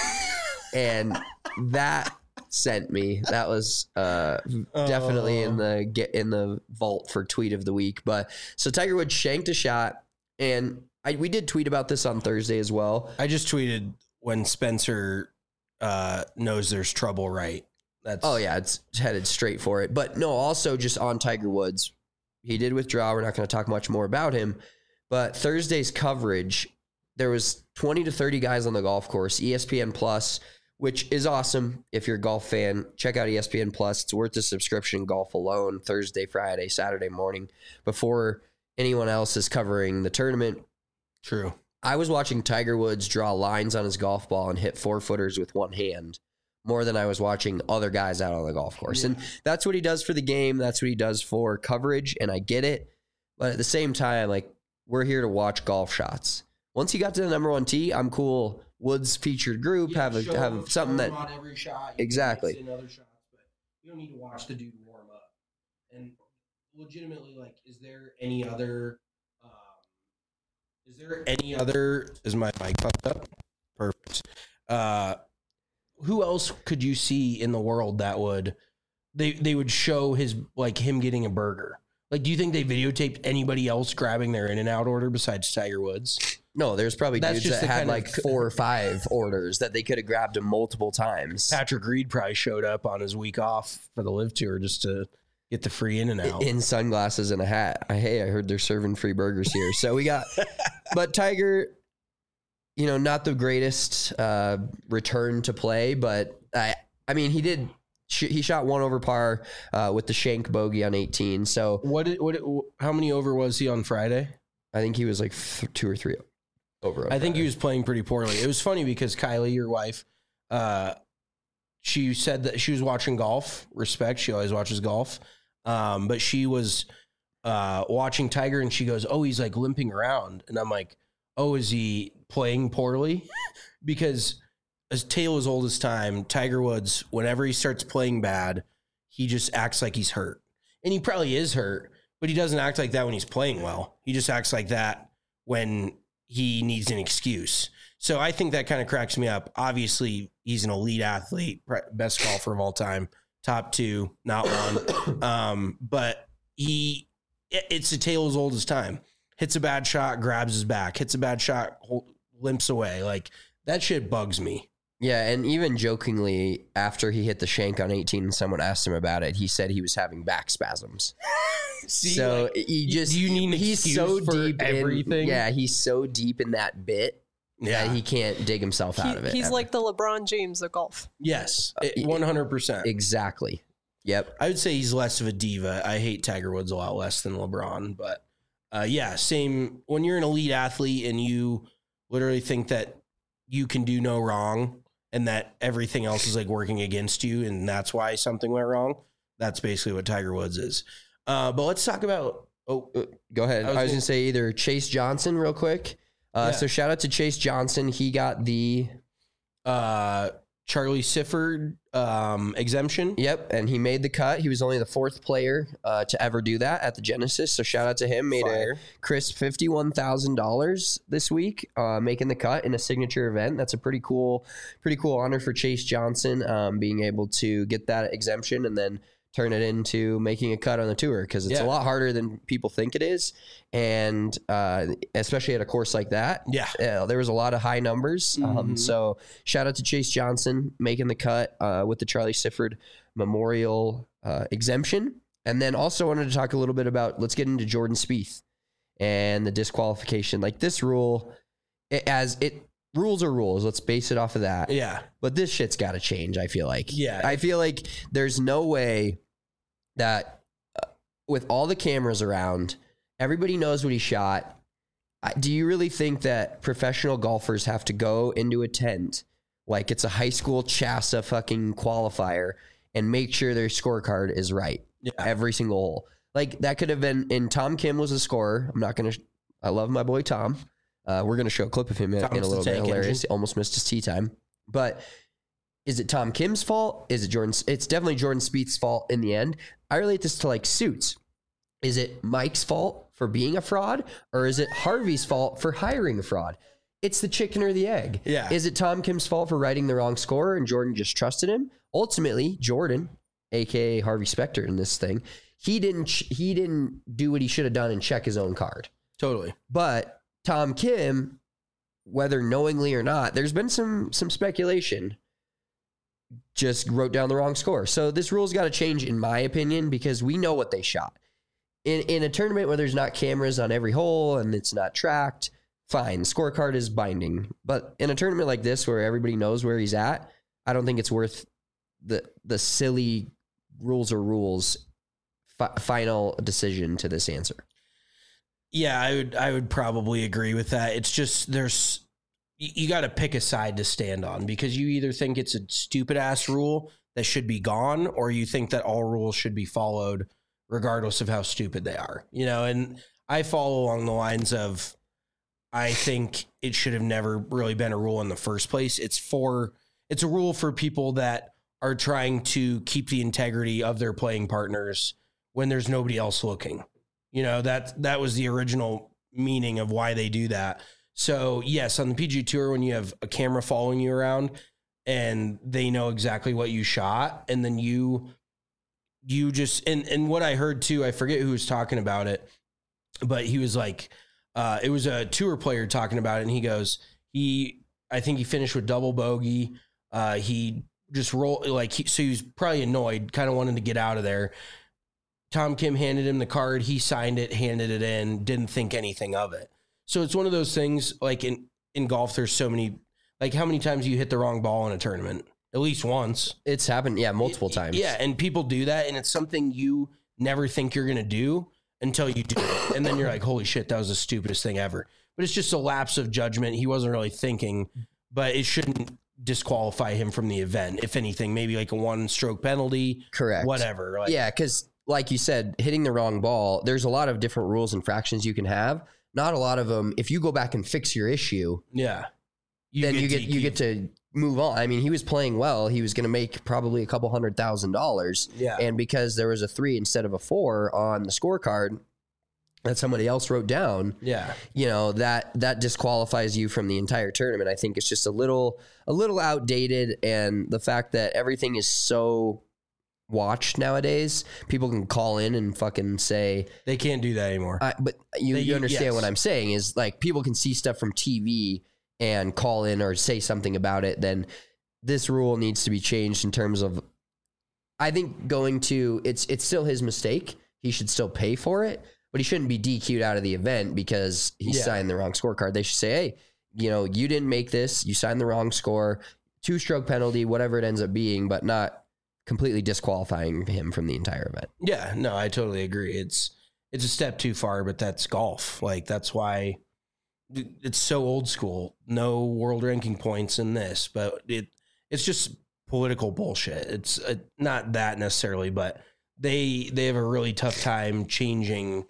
D: and that sent me. That was uh, definitely in the get in the vault for tweet of the week. But so Tiger Woods shanked a shot, and I, we did tweet about this on Thursday as well.
E: I just tweeted when Spencer uh, knows there's trouble, right? That's
D: Oh yeah, it's headed straight for it. But no, also just on Tiger Woods, he did withdraw. We're not going to talk much more about him. But Thursday's coverage, there was twenty to thirty guys on the golf course. E S P N Plus, which is awesome if you're a golf fan. Check out E S P N Plus. It's worth the subscription. Golf alone, Thursday, Friday, Saturday morning, before anyone else is covering the tournament.
E: true.
D: I was watching Tiger Woods draw lines on his golf ball and hit four footers with one hand more than I was watching other guys out on the golf course. And that's what he does for the game. That's what he does for coverage. And I get it. But at the same time, like, we're here to watch golf shots. Once he got to the number one tee, I'm cool. Woods featured group, have a, have something that
E: on every shot.
D: Exactly.
E: In other shots, but you don't need to watch the dude warm up. And legitimately, like, is there any other? Um, is there any other? Is my mic fucked up? Perfect. Uh, who else could you see in the world that would they they would show his like him getting a burger? Like, do you think they videotaped anybody else grabbing their In-N-Out order besides Tiger Woods?
D: No, there's probably
E: That's
D: dudes
E: just
D: that
E: the
D: had
E: kind
D: like
E: of-
D: four or five orders that they could have grabbed him multiple times.
E: Patrick Reed probably showed up on his week off for the Live Tour just to get the free In-N-Out.
D: In sunglasses and a hat. I, hey, I heard they're serving free burgers here. So we got, but Tiger, you know, not the greatest uh, return to play, but I, I mean, he did. Sh- he shot one over par uh, with the shank bogey on eighteen. So
E: What? Did, what? How many over was he on Friday?
D: I think he was like th- two or three over.
E: I think he was playing pretty poorly. It was funny because Kylie, your wife, uh, she said that she was watching golf. Respect, she always watches golf. Um, but she was uh, watching Tiger, and she goes, "Oh, he's like limping around," and I'm like, "Oh, is he playing poorly?" Because as tale as old as time, Tiger Woods, whenever he starts playing bad, he just acts like he's hurt, and he probably is hurt, but he doesn't act like that when he's playing well. He just acts like that when he needs an excuse. So I think that kind of cracks me up. Obviously, he's an elite athlete, best golfer of all time, top two, not one. um, but he, it's a tale as old as time. Hits a bad shot, grabs his back. Hits a bad shot, limps away. Like, that shit bugs me.
D: Yeah, and even jokingly, after he hit the shank on eighteen and someone asked him about it, he said he was having back spasms.
E: See,
D: so
E: like,
D: he just,
E: do you need an
D: he's
E: excuse
D: so
E: for
D: deep
E: everything?
D: In, yeah, he's so deep in that bit
E: Yeah.
D: that he can't dig himself
F: He-
D: out of it.
F: he's
D: ever.
F: like the LeBron James of golf.
E: Yes,
D: Uh,
E: it- one hundred percent.
D: Exactly. Yep.
E: I would say he's less of a diva. I hate Tiger Woods a lot less than LeBron, but uh, yeah, same. When you're an elite athlete and you literally think that you can do no wrong and that everything else is like working against you and that's why something went wrong, that's basically what Tiger Woods is. Uh, but let's talk about, oh,
D: Uh, Go ahead.
E: I
D: I
E: was
D: was,
E: gonna-
D: going to say either Chase Johnson real quick. Uh,
E: Yeah.
D: So shout out to Chase Johnson. He got the,
E: uh, Charlie Sifford um, exemption.
D: yep, and he made the cut. He was only the fourth player uh, to ever do that at the Genesis. So shout out to him. Made
E: Fire.
D: a crisp fifty-one thousand dollars this week, uh, making the cut in a signature event. That's a pretty cool, pretty cool honor for Chase Johnson, um, being able to get that exemption and then turn it into making a cut on the tour, because it's
E: Yeah.
D: a lot harder than people think it is. And uh, especially at a course like that,
E: Yeah.
D: uh, there was a lot of high numbers. Um,
E: Mhm.
D: so shout out to Chase Johnson making the cut uh, with the Charlie Sifford Memorial uh, exemption. And then also wanted to talk a little bit about, let's get into Jordan Spieth and the disqualification. Like, this rule, it, as it rules are rules. Let's base it off of that.
E: Yeah.
D: But this shit's got to change, I feel like.
E: Yeah.
D: I feel like there's no way that uh, with all the cameras around, everybody knows what he shot. I- Do you really think that professional golfers have to go into a tent like it's a high school CHASA fucking qualifier and make sure their scorecard is right
E: Yeah.
D: every single hole? Like, that could have been, and Tom Kim was a scorer. I'm not going to, I love my boy Tom. Uh, we're going to show a clip of him in,
E: Tom's
D: in a
E: the
D: little bit.
E: tank
D: Hilarious.
E: engine.
D: He almost missed his tee time. But is it Tom Kim's fault? Is it Jordan's? It's definitely Jordan Spieth's fault in the end. I relate this to like suits. Is it Mike's fault for being a fraud, or is it Harvey's fault for hiring a fraud? It's the chicken or the egg.
E: Yeah.
D: Is it Tom Kim's fault for writing the wrong score and Jordan just trusted him? Ultimately, Jordan, aka Harvey Specter in this thing, he didn't ch- he didn't do what he should have done and check his own card.
E: Totally.
D: But Tom Kim, whether knowingly or not, there's been some some speculation, just wrote down the wrong score. So this rule's got to change, in my opinion, because we know what they shot. In in a tournament where there's not cameras on every hole and it's not tracked, fine, scorecard is binding. But in a tournament like this where everybody knows where he's at, I don't think it's worth the the silly rules or rules fi- final decision to this answer.
E: Yeah, I would I would probably agree with that. It's just there's you, you got to pick a side to stand on, because you either think it's a stupid ass rule that should be gone, or you think that all rules should be followed regardless of how stupid they are. You know, and I follow along the lines of I think it should have never really been a rule in the first place. It's for it's a rule for people that are trying to keep the integrity of their playing partners when there's nobody else looking. You know, that that was the original meaning of why they do that. So, yes, on the P G A Tour, when you have a camera following you around, and they know exactly what you shot. And then you, you just, and, and what I heard too, I forget who was talking about it, but he was like, uh, it was a tour player talking about it. And he goes, he, I think he finished with double bogey. Uh, he just rolled like, he, so he was probably annoyed, kind of wanted to get out of there. Tom Kim handed him the card. He signed it, handed it in, didn't think anything of it. So it's one of those things like in, in golf, there's so many, like how many times you hit the wrong ball in a tournament? At least once.
D: It's happened. Yeah. Multiple times.
E: Yeah. And people do that. And it's something you never think you're going to do until you do it. And then you're like, holy shit, that was the stupidest thing ever. But it's just a lapse of judgment. He wasn't really thinking, but it shouldn't disqualify him from the event. If anything, maybe like a one stroke penalty.
D: Correct.
E: Whatever. Like,
D: yeah. Cause like you said, hitting the wrong ball, there's a lot of different rules and fractions you can have. Not a lot of them. If you go back and fix your issue,
E: yeah,
D: you then get you get, you get to move on. I mean, he was playing well. He was going to make probably a couple hundred thousand dollars.
E: Yeah.
D: And because there was a three instead of a four on the scorecard that somebody else wrote down,
E: yeah,
D: you know, that that disqualifies you from the entire tournament. I think it's just a little a little outdated, and the fact that everything is so watched nowadays, people can call in and fucking say
E: they can't do that anymore.
D: I, but you,
E: they,
D: you understand
E: yes.
D: what I'm saying is like people can see stuff from T V and call in or say something about it. Then this rule needs to be changed in terms of, I think going to, it's it's still his mistake. He should still pay for it, but he shouldn't be D Q'd out of the event because he
E: yeah.
D: signed the wrong scorecard. They should say, hey, you know, you didn't make this, you signed the wrong score, two stroke penalty, whatever it ends up being, but not completely disqualifying him from the entire event.
E: Yeah, no, I totally agree. It's it's a step too far, but that's golf. Like that's why it's so old school. No world ranking points in this, but it it's just political bullshit. It's uh, not that necessarily, but they they have a really tough time changing.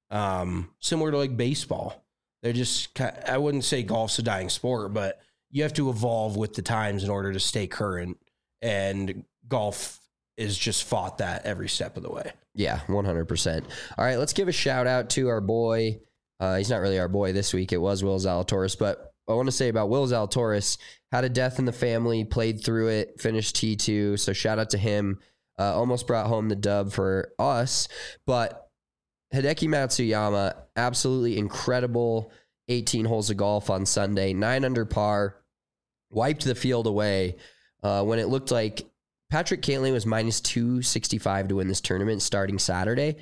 E: Um, similar to like baseball, they're just I wouldn't say golf's a dying sport, but you have to evolve with the times in order to stay current. And golf is just fought that every step of the way.
D: Yeah, one hundred percent. All right, let's give a shout out to our boy. Uh, he's not really our boy this week. It was Will Zalatoris, but I want to say about Will Zalatoris, had a death in the family, played through it, finished T two. So shout out to him. Uh, almost brought home the dub for us. But Hideki Matsuyama, absolutely incredible eighteen holes of golf on Sunday, nine under par, wiped the field away. Uh, when it looked like Patrick Cantlay was minus two sixty-five to win this tournament starting Saturday,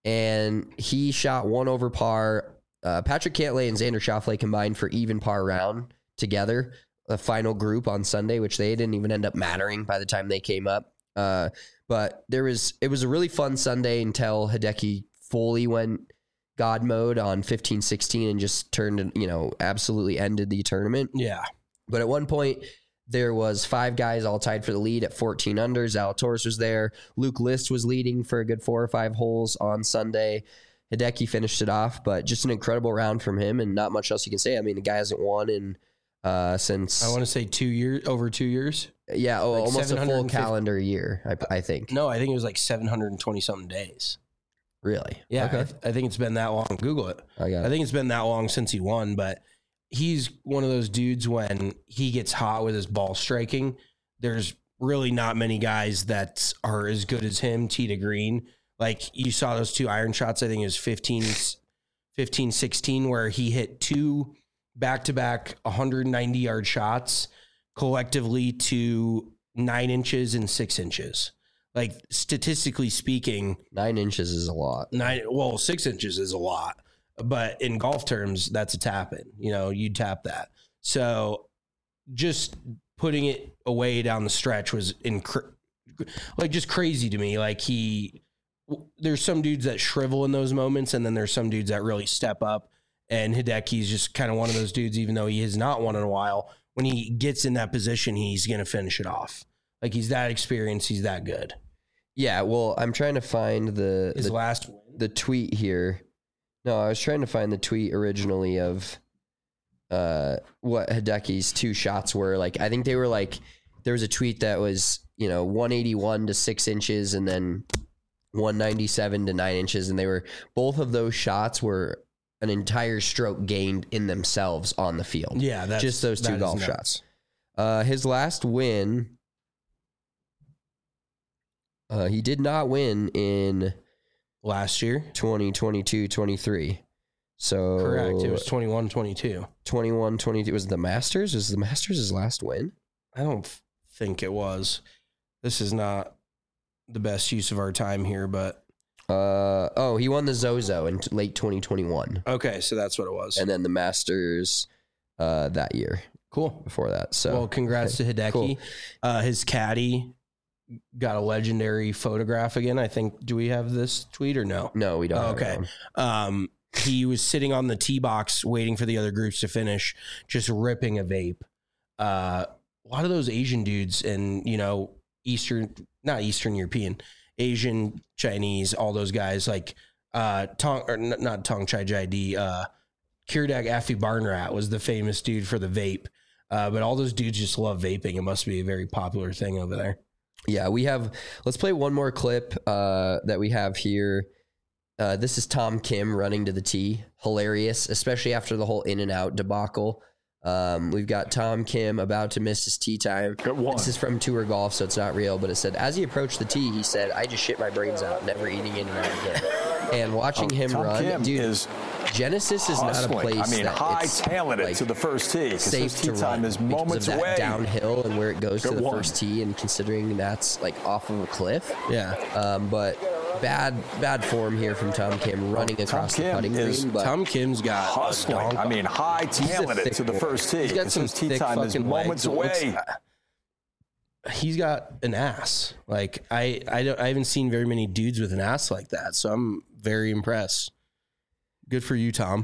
D: and he shot one over par. Uh, Patrick Cantlay and Xander Schauffele combined for even par round together, the final group on Sunday, which they didn't even end up mattering by the time they came up. Uh, but there was it was a really fun Sunday until Hideki fully went God mode on fifteen sixteen and just turned, you know, absolutely ended the tournament.
E: Yeah.
D: But at one point, there was five guys all tied for the lead at fourteen under. Zalatoris was there. Luke List was leading for a good four or five holes on Sunday. Hideki finished it off, but just an incredible round from him and not much else you can say. I mean, the guy hasn't won in uh, since...
E: I want to say two years, over two years.
D: Yeah, oh,
E: like
D: almost a full calendar year, I, I think.
E: No, I think it was like seven hundred twenty something days.
D: Really?
E: Yeah,
D: Okay.
E: I, th- I think it's been that long. Google it.
D: I got it.
E: I think it's been that long since he won, but he's one of those dudes when he gets hot with his ball striking, there's really not many guys that are as good as him, tee to green. Like you saw those two iron shots, I think it was fifteen, fifteen sixteen, where he hit two back-to-back one hundred ninety yard shots collectively to nine inches and six inches. Like statistically speaking,
D: Nine inches is a lot.
E: nine, well, six inches is a lot. But in golf terms, that's a tap in. You know, you tap that. So just putting it away down the stretch was inc- like just crazy to me. Like he, there's some dudes that shrivel in those moments, and then there's some dudes that really step up. And Hideki's just kind of one of those dudes, even though he has not won in a while. When he gets in that position, he's going to finish it off. Like he's that experienced, he's that good.
D: Yeah, well, I'm trying to find the
E: His
D: the,
E: last win.
D: the tweet here. No, I was trying to find the tweet originally of uh, what Hideki's two shots were. Like, I think they were like, there was a tweet that was, you know, one eighty-one to six inches and then one ninety-seven to nine inches. And they were, both of those shots were an entire stroke gained in themselves on the field.
E: Yeah, that's,
D: just those two
E: that is
D: golf
E: nuts.
D: shots. Uh, his last win, uh, he did not win in
E: last year,
D: twenty twenty-two twenty-three. So
E: correct. It was twenty-one twenty-two.
D: twenty-one twenty-two. Was it the Masters? Was the Masters his last win?
E: I don't think it was. This is not the best use of our time here, but
D: uh, oh, he won the Zozo in t- late twenty twenty-one.
E: Okay, so that's what it was.
D: And then the Masters uh, that year.
E: Cool.
D: Before that. So
E: well, congrats
D: okay,
E: to Hideki.
D: cool.
E: Uh, his caddy got a legendary photograph again. I think. Do we have this tweet or no?
D: No, we don't.
E: Oh, okay. Um, he was sitting on the tee box waiting for the other groups to finish, just ripping a vape. Uh, a lot of those Asian dudes and, you know, Eastern, not Eastern European, Asian, Chinese, all those guys like uh, Tong, or n- not Tong Chai Jai D, uh, Kirdak Afi Barnrat was the famous dude for the vape. Uh, but all those dudes just love vaping. It must be a very popular thing over there.
D: Yeah, we have, let's play one more clip uh, that we have here. Uh, this is Tom Kim running to the tee. Hilarious, especially after the whole in and out debacle. Um, we've got Tom Kim about to miss his tee time. This is from Tour Golf, so it's not real, but it said, as he approached the tee, he said, I just shit my brains out, never eating in and out again. And watching
G: oh,
D: him
G: Tom
D: run,
G: Kim
D: dude,
G: is
D: Genesis is
G: hustling.
D: not a place
G: I mean,
D: that
G: high
D: it's
G: talented
D: like
G: to the first tee.
D: Safe
G: his tee
D: to
G: time
D: run
G: is
D: because
G: moments
D: of that
G: away.
D: downhill and where it goes
G: Good
D: to the
G: one.
D: first tee, and considering that's like off of a cliff.
E: Yeah.
D: Um, but bad bad form here from Tom Kim running
G: Tom
D: across
G: Kim
D: the putting
G: is
D: green. But
E: Tom Kim's got
G: hustling.
E: a donk-
G: I mean, high
D: He's a
G: talented
D: thick
G: to the
D: boy.
G: first tee.
E: He's got some
G: his tee
E: thick
G: time is
E: fucking
G: moments
E: legs. It looks-
G: away.
E: he's got an ass. Like I, I don't, I haven't seen very many dudes with an ass like that. So I'm very impressed. Good for you, Tom.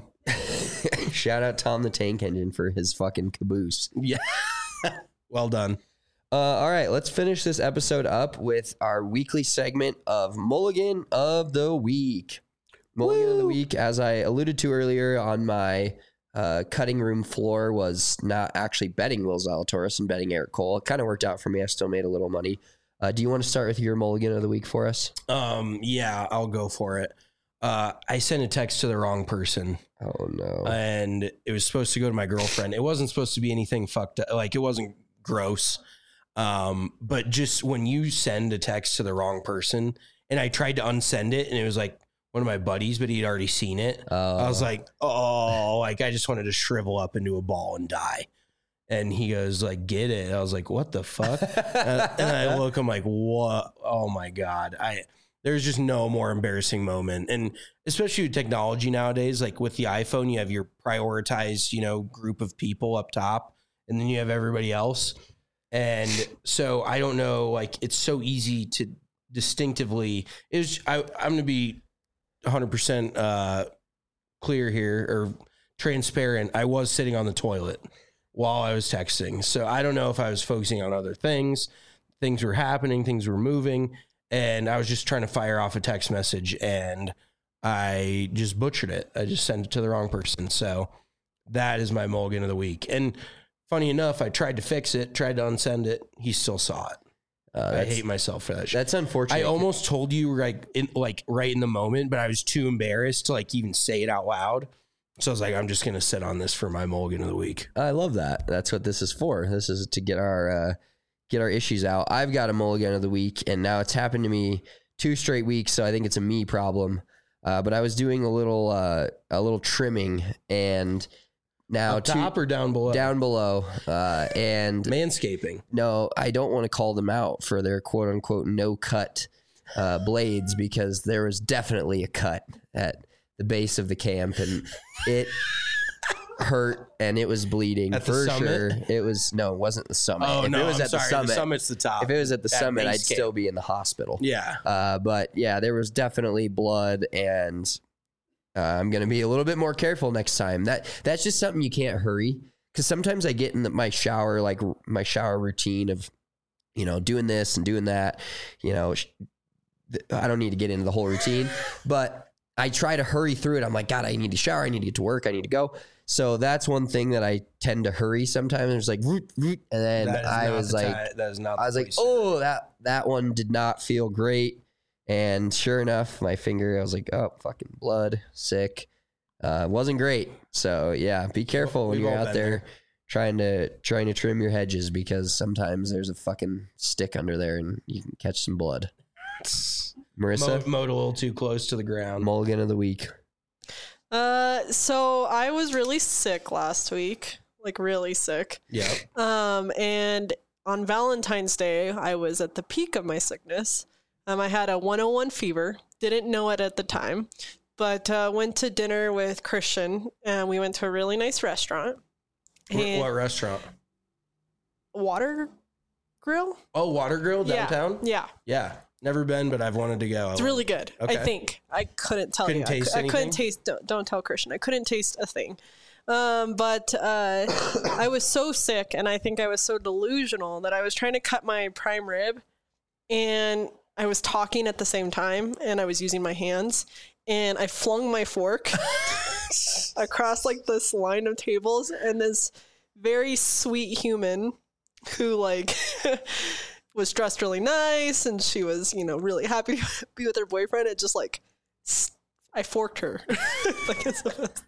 D: shout out Tom the Tank Engine for his fucking caboose.
E: Yeah. Well done.
D: Uh, all right, let's finish this episode up with our weekly segment of Mulligan of the Week. Mulligan Woo! of the Week, as I alluded to earlier on my uh, cutting room floor, was not actually betting Will Zalatoris and betting Eric Cole. It kind of worked out for me. I still made a little money. Uh, do you want to start with your Mulligan of the Week for us?
E: Um, yeah, I'll go for it. Uh, I sent a text to the wrong person.
D: Oh, no.
E: And it was supposed to go to my girlfriend. It wasn't supposed to be anything fucked up. Like, it wasn't gross. Um, but just when you send a text to the wrong person, and I tried to unsend it, and it was like one of my buddies, but he'd already seen it.
D: Oh.
E: I was like, oh, like I just wanted to shrivel up into a ball and die. And he goes like, get it. I was like, what the fuck? uh, and I look, I'm like, what? Oh my God. I, there's just no more embarrassing moment. And especially with technology nowadays, like with the iPhone, you have your prioritized, you know, group of people up top, and then you have everybody else. And so I don't know, like it's so easy to distinctively is I, I'm going to be one hundred percent uh, clear here or transparent. I was sitting on the toilet while I was texting. So I don't know if I was focusing on other things. Things were happening, things were moving, and I was just trying to fire off a text message, and I just butchered it. I just sent it to the wrong person. So that is my Mulligan of the week. And funny enough, I tried to fix it, tried to unsend it. He still saw it.
D: Uh,
E: I hate myself for that shit.
D: That's unfortunate.
E: I almost told you like in, like right in the moment, but I was too embarrassed to like even say it out loud. So I was like, I'm just going to sit on this for my Mulligan of the week.
D: I love that. That's what this is for. This is to get our uh, get our issues out. I've got a Mulligan of the week, and now it's happened to me two straight weeks, so I think it's a me problem. Uh, but I was doing a little uh, a little trimming, and now
E: Up top
D: two,
E: or down below?
D: down below, uh, and
E: Manscaping.
D: no, I don't want to call them out for their quote unquote no cut uh, blades, because there was definitely a cut at the base of the camp, and it hurt and it was bleeding
E: At the
D: for
E: summit?
D: sure. It was no, it wasn't the summit.
E: Oh
D: if
E: no,
D: it was
E: I'm
D: at
E: sorry.
D: the summit,
E: The summit's the top.
D: if it was at the
E: That
D: summit,
E: base
D: I'd
E: camp.
D: still be in the hospital.
E: Yeah.
D: Uh, but yeah, there was definitely blood, and uh, I'm gonna be a little bit more careful next time. That that's just something you can't hurry, because sometimes I get in the, my shower, like r- my shower routine of, you know, doing this and doing that. You know, sh- th- I don't need to get into the whole routine, but I try to hurry through it. I'm like, God, I need to shower. I need to get to work. I need to go. So that's one thing that I tend to hurry sometimes. It's like, root, root, and then
E: That is
D: I
E: not
D: was
E: the
D: like,
E: ti- that is not.
D: I was
E: the
D: like,
E: place to-
D: oh, that that one did not feel great. And sure enough, my finger, I was like, oh, fucking blood, sick. Uh, wasn't great. So yeah, be careful when
E: We've
D: you're
E: all
D: out
E: been
D: there,
E: there.
D: trying to trying to trim your hedges because sometimes there's a fucking stick under there and you can catch some blood. Marissa,
E: Mowed, mowed a little too close to the ground.
D: mulligan of the week.
F: Uh, so I was really sick last week, like really sick.
E: Yeah.
F: Um, and on Valentine's Day, I was at the peak of my sickness. Um, I had a one oh one fever. Didn't know it at the time, but uh, went to dinner with Christian, and we went to a really nice restaurant.
E: What,
F: And
E: what restaurant?
F: Water Grill?
E: Oh, Water Grill downtown?
F: Yeah.
E: Yeah. Never been, but I've wanted to go.
F: It's really good.
E: Okay.
F: I think. I couldn't tell
E: Couldn't
F: you.
E: taste
F: I, cou- I couldn't
E: anything?
F: taste. Don't, don't tell Christian. I couldn't taste a thing. Um, but uh, I was so sick, and I think I was so delusional that I was trying to cut my prime rib, and I was talking at the same time, and I was using my hands, and I flung my fork across like this line of tables, and this very sweet human who like was dressed really nice, and she was, you know, really happy to be with her boyfriend. It just like s- I forked her, like it's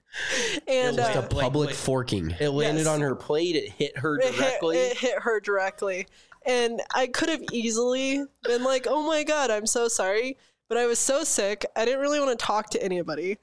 F: and
E: Just
F: uh,
D: A public
E: like-
D: forking.
E: It landed
F: Yes.
E: on her plate. It hit her
F: it hit,
E: directly.
F: it hit her directly, and I could have easily been like, "Oh my god, I'm so sorry," but I was so sick. I didn't really want to talk to anybody.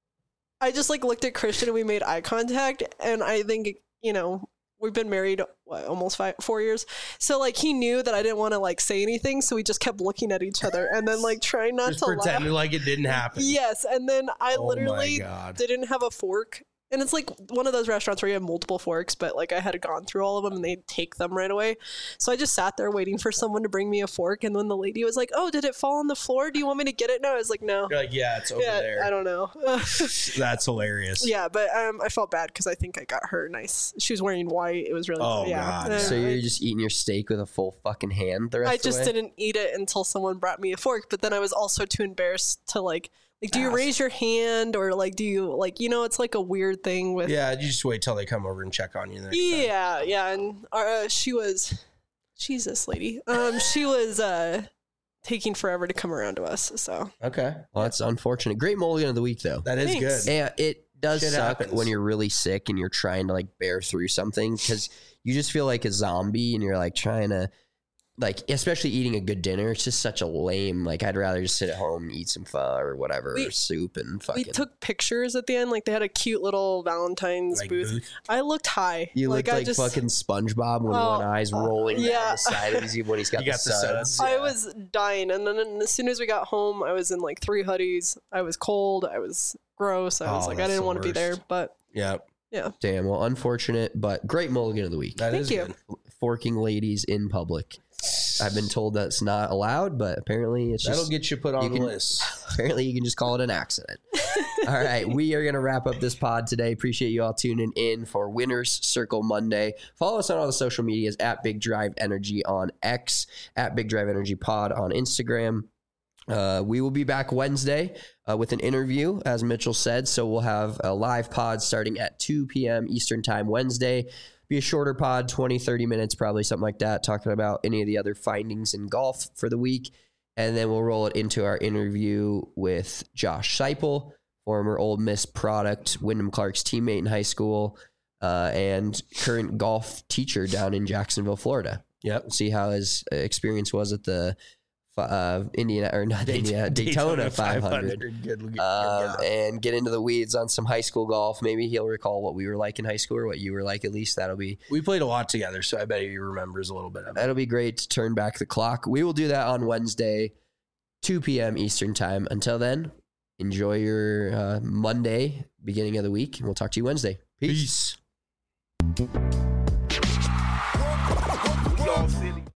F: I just like looked at Christian and we made eye contact, and I think, you know, we've been married what, almost five, four years. So like he knew that I didn't want to like say anything, so we just kept looking at each other and then like trying not
E: Just
F: to
E: pretended
F: laugh.
E: like it didn't happen.
F: Yes, and then I
E: Oh my
F: literally
E: God.
F: didn't have a fork. And it's like one of those restaurants where you have multiple forks, but like I had gone through all of them and they take them right away. So I just sat there waiting for someone to bring me a fork. And when the lady was like, "Oh, did it fall on the floor? Do you want me to get it?" No, I was like, "No."
E: You're like, yeah, it's over
F: Yeah,
E: there.
F: I don't know.
E: That's hilarious.
F: Yeah, but um, I felt bad because I think I got her nice. She was wearing white. It was really
E: Oh,
F: yeah.
E: God.
F: Uh,
D: So
F: I-
D: you're just eating your steak with a full fucking hand the rest
F: I
D: of the
F: just
D: way?
F: didn't eat it until someone brought me a fork. But then I was also too embarrassed to like, like, do you
E: Ask.
F: raise your hand or like, do you like, you know, it's like a weird thing with.
E: Yeah, you just wait till they come over and check on you the next time.
F: Yeah, yeah, and uh, she was, Jesus, lady. Um, she was uh taking forever to come around to us. So
E: Okay.
D: Well, that's unfortunate. Great mulligan of the week, though.
E: That is
F: Thanks.
E: good.
D: Yeah, it does
E: Shit
D: suck
E: happens.
D: when you're really sick and you're trying to like bear through something because you just feel like a zombie and you're like trying to, like, especially eating a good dinner. It's just such a lame, like, I'd rather just sit at home and eat some pho or whatever,
F: We-
D: or soup and fucking.
F: we took pictures at the end. Like they had a cute little Valentine's
E: Like
F: booth.
E: booth.
F: I looked high.
D: you
F: like
D: looked
F: I
D: like
F: just,
D: fucking SpongeBob when
F: Oh,
D: one eye's rolling
F: yeah.
D: down the side of his when he's got,
E: You
D: the,
E: got the
D: suds.
E: suds.
F: I
E: Yeah.
F: was dying, and then as soon as we got home, I was in like three hoodies. I was cold. I was gross. I was
E: Oh,
F: like, I
E: that's
F: didn't
E: the
F: want to be there,
E: worst.
F: but
E: Yeah,
D: Damn, well, unfortunate, but great mulligan of the week.
E: that
F: Thank
E: is
F: you.
E: good.
D: Forking ladies in public. I've been told that's not allowed, but apparently it's
E: That'll
D: just
E: get you put on
D: you
E: the
D: can-
E: list.
D: apparently you can just call it an accident. All right, we are going to wrap up this pod today. Appreciate you all tuning in for Winners Circle Monday. Follow us on all the social medias at Big Drive Energy on X, at Big Drive Energy Pod on Instagram. Uh, we will be back Wednesday uh, with an interview, as Mitchell said. So we'll have a live pod starting at two p.m. Eastern Time Wednesday. Be a shorter pod, twenty, thirty minutes, probably something like that, talking about any of the other findings in golf for the week. And then we'll roll it into our interview with Josh Seipel, former Ole Miss product, Wyndham Clark's teammate in high school, uh, and current golf teacher down in Jacksonville, Florida.
E: Yep.
D: See how his uh, experience was at the uh, Indiana, or not Indiana, Daytona, five hundred.
E: Good, good, good
D: Um,
E: guy.
D: and get into the weeds on some high school golf. Maybe he'll recall what we were like in high school or what you were like. At least that'll be
E: We played a lot together, so I bet he remembers a little bit of it.
D: that'll be great to turn back the clock. We will do that on Wednesday, two p.m. Eastern Time. Until then, enjoy your uh, Monday, beginning of the week, and we'll talk to you Wednesday. Peace.
E: Peace.